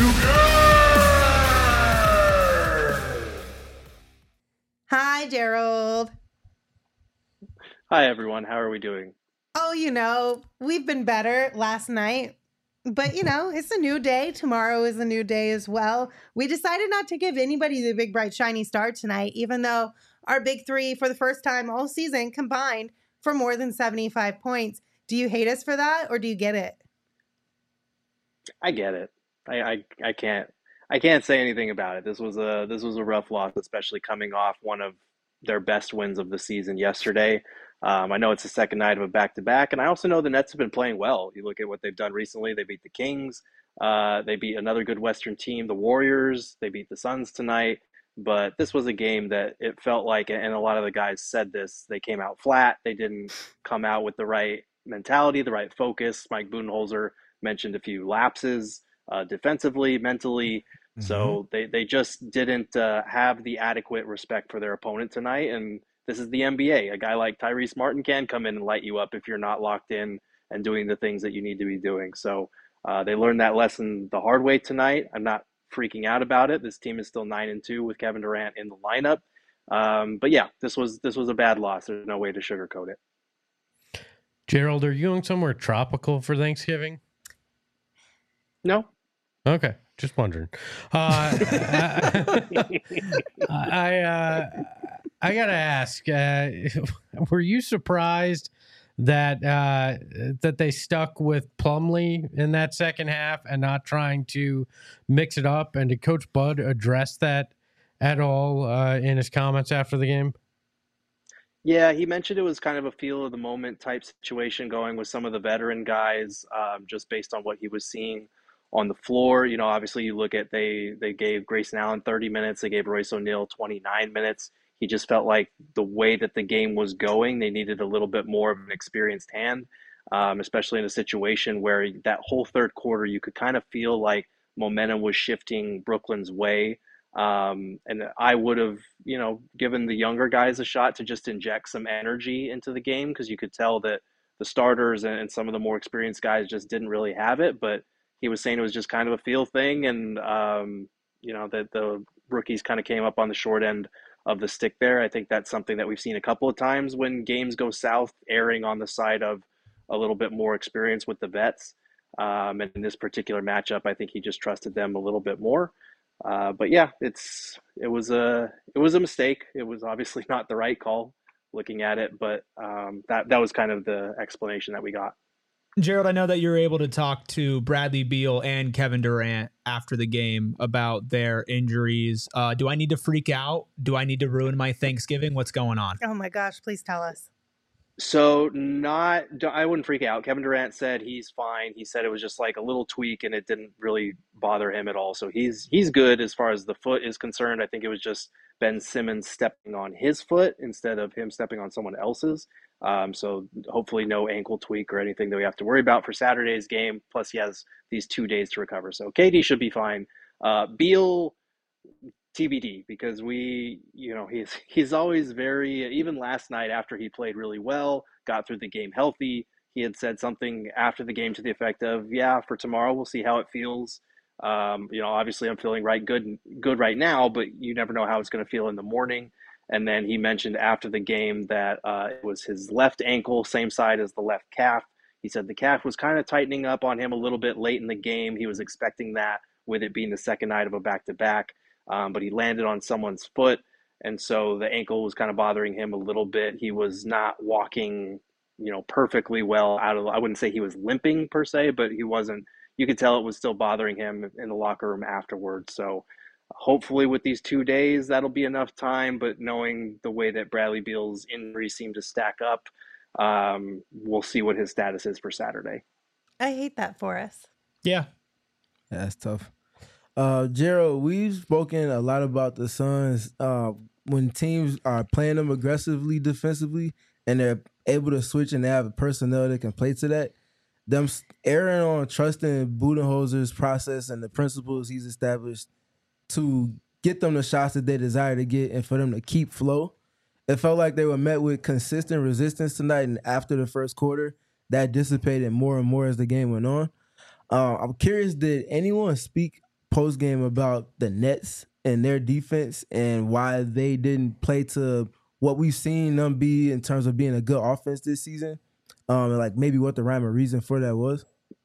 Hi, Gerald. Hi, everyone. How are we doing? Oh, you know, we've been better last night, but you know, it's a new day. Tomorrow is a new day as well. We decided not to give anybody the big, bright, shiny star tonight, even though our big three for the first time all season combined for more than seventy-five points. Do you hate us for that, or do you get it? I get it. I, I, I can't I can't say anything about it. This was a this was a rough loss, especially coming off one of their best wins of the season yesterday. Um, I know it's the second night of a back-to-back, and I also know the Nets have been playing well. You look at what they've done recently. They beat the Kings. Uh, they beat another good Western team, the Warriors. They beat the Suns tonight. But this was a game that it felt like, and a lot of the guys said this, they came out flat. They didn't come out with the right mentality, the right focus. Mike Budenholzer mentioned a few lapses uh, defensively, mentally. Mm-hmm. So they, they just didn't uh, have the adequate respect for their opponent tonight. And this is the N B A. A guy like Tyrese Martin can come in and light you up if you're not locked in and doing the things that you need to be doing. So uh, they learned that lesson the hard way tonight. I'm not freaking out about it. This team is still nine and two with Kevin Durant in the lineup. Um, but yeah, this was this was a bad loss. There's no way to sugarcoat it. Gerald, are you going somewhere tropical for Thanksgiving? No. Okay, just wondering. Uh, I I, uh, I gotta ask: uh, were you surprised that uh, that they stuck with Plumlee in that second half and not trying to mix it up? And did Coach Bud address that at all uh, in his comments after the game? Yeah, he mentioned it was kind of a feel of the moment type situation going with some of the veteran guys, um, just based on what he was seeing on the floor. You know, obviously you look at they they gave Grayson Allen thirty minutes, they gave Royce O'Neal twenty-nine minutes. He just felt like the way that the game was going, they needed a little bit more of an experienced hand, um, especially in a situation where that whole third quarter, you could kind of feel like momentum was shifting Brooklyn's way. Um, and I would have, you know, given the younger guys a shot to just inject some energy into the game, because you could tell that the starters and, and some of the more experienced guys just didn't really have it. But he was saying it was just kind of a feel thing, and um, you know, that the rookies kind of came up on the short end of the stick there. I think that's something that we've seen a couple of times when games go south, erring on the side of a little bit more experience with the vets. Um, and in this particular matchup, I think he just trusted them a little bit more. Uh, but yeah, it's it was a it was a mistake. It was obviously not the right call looking at it, but um, that that was kind of the explanation that we got. Gerald, I know that you're able to talk to Bradley Beal and Kevin Durant after the game about their injuries. Uh, do I need to freak out? Do I need to ruin my Thanksgiving? What's going on? Oh my gosh, please tell us. So not, I wouldn't freak out. Kevin Durant said he's fine. He said it was just like a little tweak and it didn't really bother him at all. So he's he's good as far as the foot is concerned. I think it was just Ben Simmons stepping on his foot instead of him stepping on someone else's. Um, so hopefully no ankle tweak or anything that we have to worry about for Saturday's game. Plus he has these two days to recover. So K D should be fine. Uh, Beal, T B D, because we, you know, he's he's always very, even last night after he played really well, got through the game healthy, he had said something after the game to the effect of, yeah, for tomorrow, we'll see how it feels. Um, you know, obviously I'm feeling right good, good right now, but you never know how it's going to feel in the morning. And then he mentioned after the game that uh, it was his left ankle, same side as the left calf. He said the calf was kind of tightening up on him a little bit late in the game. He was expecting that with it being the second night of a back-to-back. Um, but he landed on someone's foot, and so the ankle was kind of bothering him a little bit. He was not walking, you know, perfectly well out of, I wouldn't say he was limping per se, but he wasn't, you could tell it was still bothering him in the locker room afterwards. So hopefully with these two days, that'll be enough time, but knowing the way that Bradley Beal's injuries seem to stack up, um, we'll see what his status is for Saturday. I hate that for us. Yeah. Yeah, that's tough. Uh, Gerald, we've spoken a lot about the Suns uh, when teams are playing them aggressively defensively and they're able to switch and they have a personnel that can play to that. Them erring on trusting Budenholzer's process and the principles he's established to get them the shots that they desire to get and for them to keep flow. It felt like they were met with consistent resistance tonight, and after the first quarter, that dissipated more and more as the game went on. Uh, I'm curious, did anyone speak post game about the Nets and their defense and why they didn't play to what we've seen them be in terms of being a good offense this season? Um, and like maybe what the rhyme or reason for that was?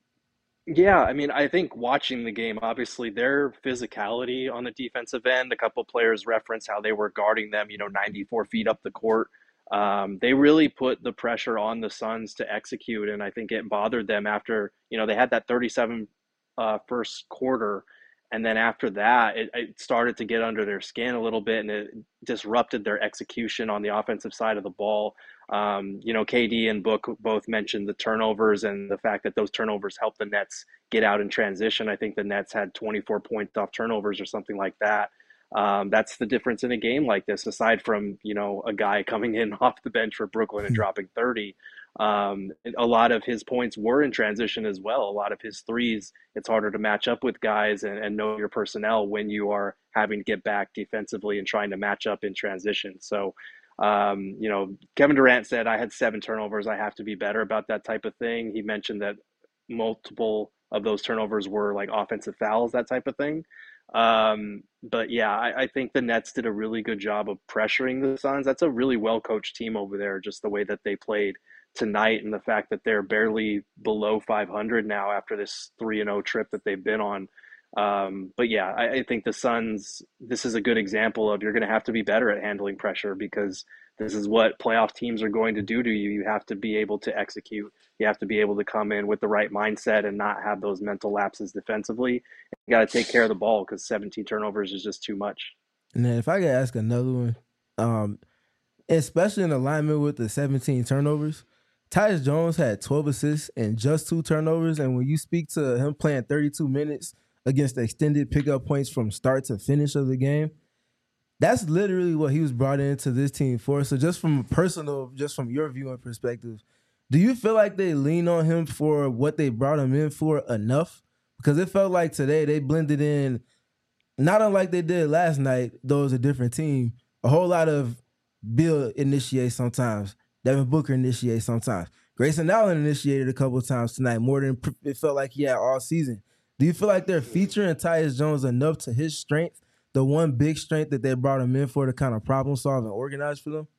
Yeah, I mean, I think watching the game, obviously their physicality on the defensive end, a couple players reference how they were guarding them, you know, ninety-four feet up the court. Um, they really put the pressure on the Suns to execute, and I think it bothered them after, you know, they had that thirty-seven uh, first quarter, and then after that, it, it started to get under their skin a little bit, and it disrupted their execution on the offensive side of the ball. Um, you know, K D and Book both mentioned the turnovers and the fact that those turnovers helped the Nets get out in transition. I think the Nets had twenty-four points off turnovers or something like that. Um, that's the difference in a game like this, aside from, you know, a guy coming in off the bench for Brooklyn and dropping thirty. Um, a lot of his points were in transition as well. A lot of his threes, it's harder to match up with guys and, and know your personnel when you are having to get back defensively and trying to match up in transition. So, um, you know, Kevin Durant said, I had seven turnovers. I have to be better about that type of thing. He mentioned that multiple of those turnovers were like offensive fouls, that type of thing. Um, but yeah, I, I think the Nets did a really good job of pressuring the Suns. That's a really well-coached team over there, just the way that they played tonight and the fact that they're barely below five hundred now after this three and oh trip that they've been on. Um, but yeah, I, I think the Suns, this is a good example of you're going to have to be better at handling pressure because this is what playoff teams are going to do to you. You have to be able to execute. You have to be able to come in with the right mindset and not have those mental lapses defensively. You got to take care of the ball because seventeen turnovers is just too much. And then if I could ask another one, um, especially in alignment with the seventeen turnovers, Tyus Jones had twelve assists and just two turnovers. And when you speak to him playing thirty-two minutes against the extended pickup points from start to finish of the game, that's literally what he was brought into this team for. So just from a personal, just from your viewing perspective, do you feel like they lean on him for what they brought him in for enough? Because it felt like today they blended in, not unlike they did last night, though it was a different team, a whole lot of Bill initiates sometimes, Devin Booker initiates sometimes. Grayson Allen initiated a couple of times tonight, more than it felt like he had all season. Do you feel like they're featuring Tyus Jones enough to his strength, the one big strength that they brought him in for to kind of problem solve and organize for them?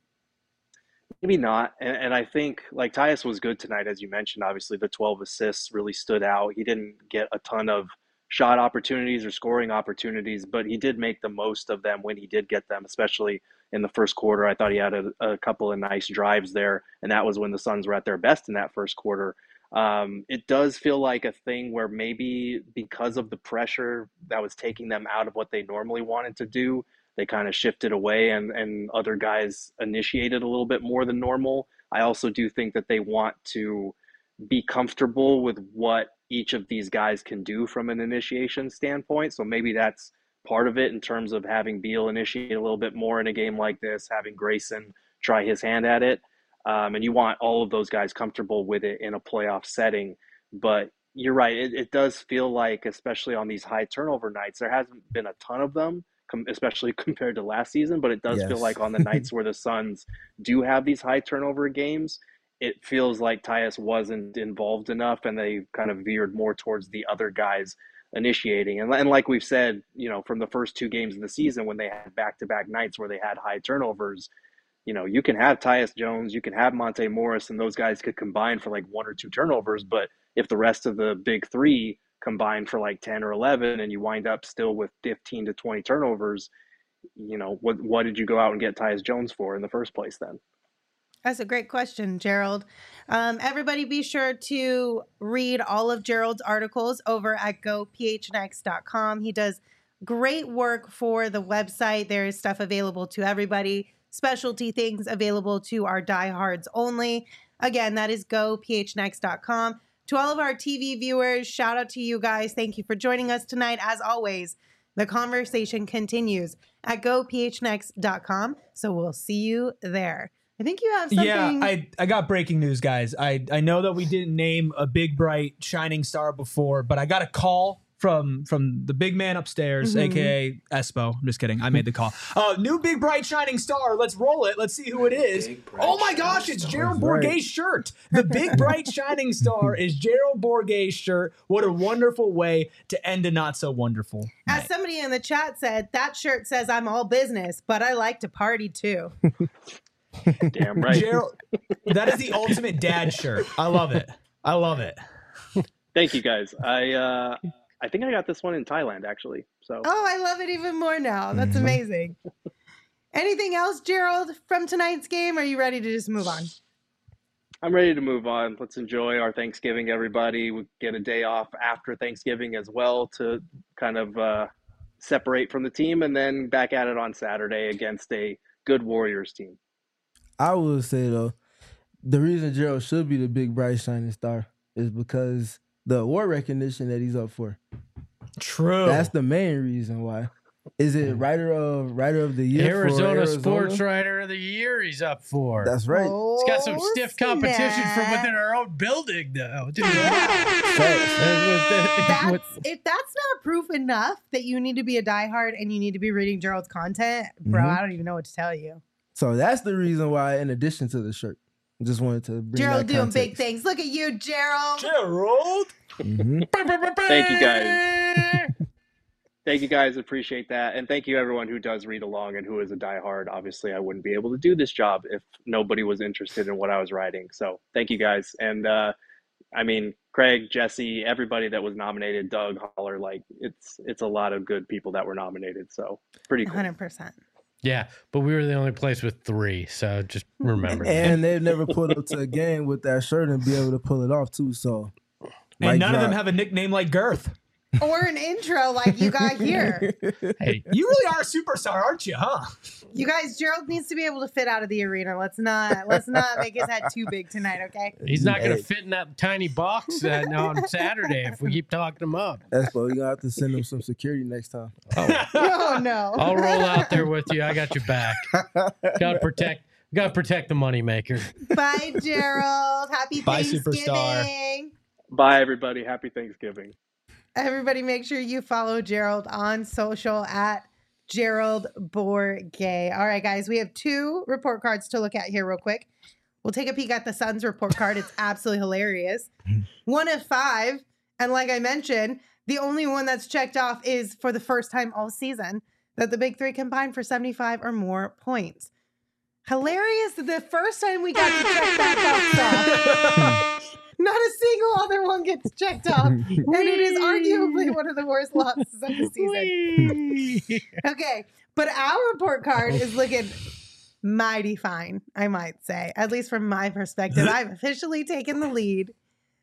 Maybe not. And, and I think like Tyus was good tonight, as you mentioned. Obviously, the twelve assists really stood out. He didn't get a ton of shot opportunities or scoring opportunities, but he did make the most of them when he did get them, especially in the first quarter. I thought he had a, a couple of nice drives there, and that was when the Suns were at their best in that first quarter. Um, it does feel like a thing where maybe because of the pressure that was taking them out of what they normally wanted to do, they kind of shifted away and, and other guys initiated a little bit more than normal. I also do think that they want to be comfortable with what each of these guys can do from an initiation standpoint. So maybe that's part of it in terms of having Beal initiate a little bit more in a game like this, having Grayson try his hand at it. Um, and you want all of those guys comfortable with it in a playoff setting. But you're right. It, it does feel like, especially on these high turnover nights, there hasn't been a ton of them, com- especially compared to last season. But it does yes. feel like on the nights where the Suns do have these high turnover games, it feels like Tyus wasn't involved enough and they kind of veered more towards the other guys initiating. And, and like we've said, you know, from the first two games of the season when they had back-to-back nights where they had high turnovers, you know, you can have Tyus Jones, you can have Monte Morris, and those guys could combine for like one or two turnovers. But if the rest of the big three combine for like ten or eleven and you wind up still with fifteen to twenty turnovers, you know, what what did you go out and get Tyus Jones for in the first place then? That's a great question, Gerald. Um, everybody be sure to read all of Gerald's articles over at go p h n x dot com. He does great work for the website. There is stuff available to everybody, specialty things available to our diehards only. Again, that is go p h n x dot com. To all of our T V viewers, shout out to you guys. Thank you for joining us tonight. As always, the conversation continues at go p h n x dot com. So we'll see you there. I think you have something. Yeah, I, I got breaking news, guys. I, I know that we didn't name a big, bright, shining star before, but I got a call from from the big man upstairs, Mhm. aka Espo. I'm just kidding. I made the call. Uh, new big bright shining star. Let's roll it. Let's see who it is. Big, bright, Oh my gosh, shining it's star. Gerald That's right. Bourguet's shirt. The big bright shining star is Gerald Bourguet's shirt. What a wonderful way to end a not so wonderful As night. somebody in the chat said, that shirt says I'm all business, but I like to party too. Damn right. Gerald, that is the ultimate dad shirt. I love it. I love it. Thank you guys. I uh, I think I got this one in Thailand actually. So Oh, I love it even more now. That's Mhm. amazing. Anything else, Gerald, from tonight's game? Or are you ready to just move on? I'm ready to move on. Let's enjoy our Thanksgiving, everybody. We get a day off after Thanksgiving as well to kind of uh, separate from the team, and then back at it on Saturday against a good Warriors team. I will say though, the reason Gerald should be the big bright shining star is because the award recognition that he's up for. True. That's the main reason why. Is it writer of writer of the year? for Arizona, Arizona Sports Writer of the Year he's up for. That's right. Oh, It's got some stiff competition from snap. within our own building, though. Dude. Facts. That's, if that's not proof enough that you need to be a diehard and you need to be reading Gerald's content, bro, Mhm. I don't even know what to tell you. So that's the reason why, in addition to the shirt, I just wanted to bring Gerald that doing big context. things. Look at you, Gerald. Gerald. Mhm. Thank you, guys. Thank you guys. Appreciate that. And thank you everyone who does read along and who is a diehard. Obviously, I wouldn't be able to do this job if nobody was interested in what I was writing. So thank you guys. And uh, I mean, Craig, Jesse, everybody that was nominated, Doug, Holler, like it's it's a lot of good people that were nominated. So pretty cool. one hundred percent. Yeah, but we were the only place with three, so just remember that. And they've never pulled up to a game with that shirt and be able to pull it off too. So, And mic none of them drop. have a nickname like Girth. Or an intro like you got here. Hey, You really are a superstar, aren't you, huh? You guys, Gerald needs to be able to fit out of the arena. Let's not let's not make his head too big tonight, okay? he's not going Hey. to fit in that tiny box uh, on Saturday if we keep talking him up. That's what you gonna have to send them some security next time. Oh no. I'll roll out there with you. I got your back. Got to protect. Got to protect the moneymaker. Bye, Gerald. Happy Bye, Thanksgiving. superstar. Bye, everybody. Happy Thanksgiving. Everybody, make sure you follow Gerald on social at Gerald Bourguet. All right, guys, we have two report cards to look at here, real quick. We'll take a peek at the Suns report card. It's absolutely hilarious. One of five. And like I mentioned, the only one that's checked off is for the first time all season that the big three combined for seventy-five or more points. Hilarious that the first time we got to check that box off. Not a single other one gets checked off. And it is arguably one of the worst losses of the season. Okay, but our report card is looking mighty fine, I might say. At least from my perspective. I've officially taken the lead.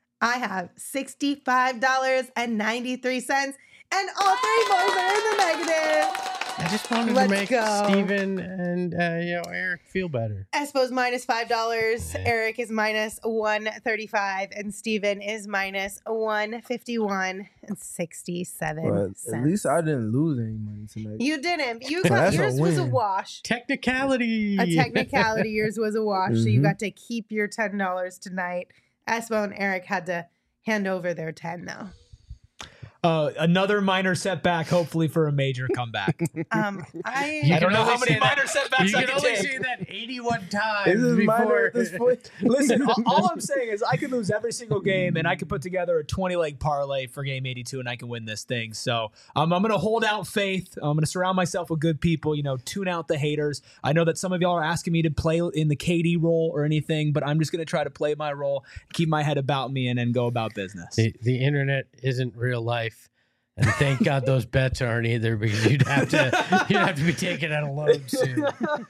I have sixty-five dollars and ninety-three cents, and all three boys are in the negative. I just wanted Let's to make go. Steven and uh, you know Eric feel better. Espo's minus five dollars. Yeah. Eric is minus one thirty-five, and Steven is minus one fifty-one and sixty-seven But cents. at least I didn't lose any money tonight. You didn't. You So got that's a yours was a win. wash. Technicality. A technicality. Yours was a wash. So you Mhm. got to keep your ten dollars tonight. Espo and Eric had to hand over their ten though. Uh, another minor setback, hopefully for a major comeback. Um, I You I don't can know how only many say that- minor setbacks You I can can only take. say that eighty-one times This is minor before. at this point. Listen, all, all I'm saying is I could lose every single game, and I could put together a twenty leg parlay for game eighty-two, and I can win this thing. So um, I'm going to hold out faith. I'm going to surround myself with good people. You know, tune out the haters. I know that some of y'all are asking me to play in the K D role or anything, but I'm just going to try to play my role, keep my head about me, and then go about business. The, the internet isn't real life. And thank God those bets aren't either, because you'd have to you'd have to be taken out of load soon.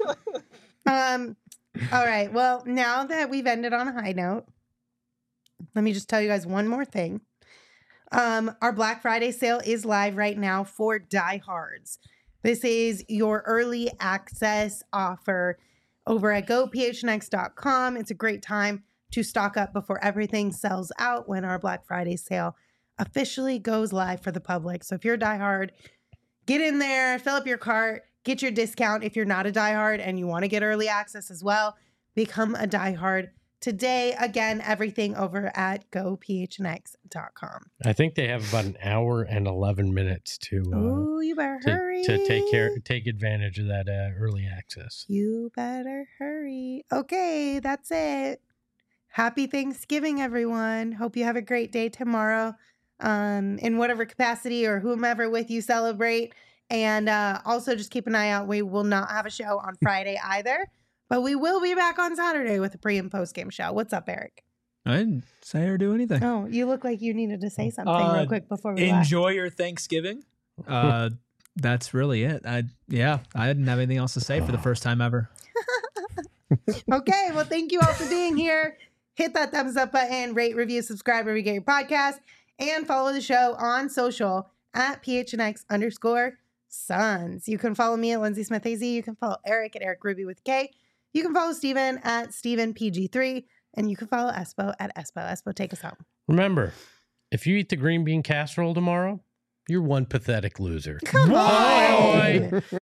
Um, all right. Well, now that we've ended on a high note, let me just tell you guys one more thing. Um, our Black Friday sale is live right now for diehards. This is your early access offer over at go p h n x dot com. It's a great time to stock up before everything sells out when our Black Friday sale officially goes live for the public. So if you're a diehard, get in there, fill up your cart, get your discount. If you're not a diehard and you want to get early access as well, become a diehard today. Again, everything over at go p h n x dot com. I think they have about an hour and eleven minutes to uh, Ooh, you better to, hurry. to take care, take advantage of that uh, early access. You better hurry. Okay, that's it. Happy Thanksgiving, everyone. Hope you have a great day tomorrow, um, in whatever capacity or whomever with you celebrate. And uh, also just keep an eye out. We will not have a show on Friday either, but we will be back on Saturday with a pre and post game show. What's up, Eric? I didn't say or do anything. Oh, you look like you needed to say something Uh, real quick before we left. Enjoy your Thanksgiving. Uh, that's really it. I yeah, I didn't have anything else to say for the first time ever. Okay, well, thank you all for being here. Hit that thumbs up button, rate, review, subscribe wherever you get your podcast, and follow the show on social at phnx underscore Suns. You can follow me at Lindsay Smith A Z. You can follow Eric at Eric Ruby with K. You can follow Steven at Steven P G three. And you can follow Espo at Espo. Espo, take us home. Remember, if you eat the green bean casserole tomorrow, you're one pathetic loser. Come on. Bye.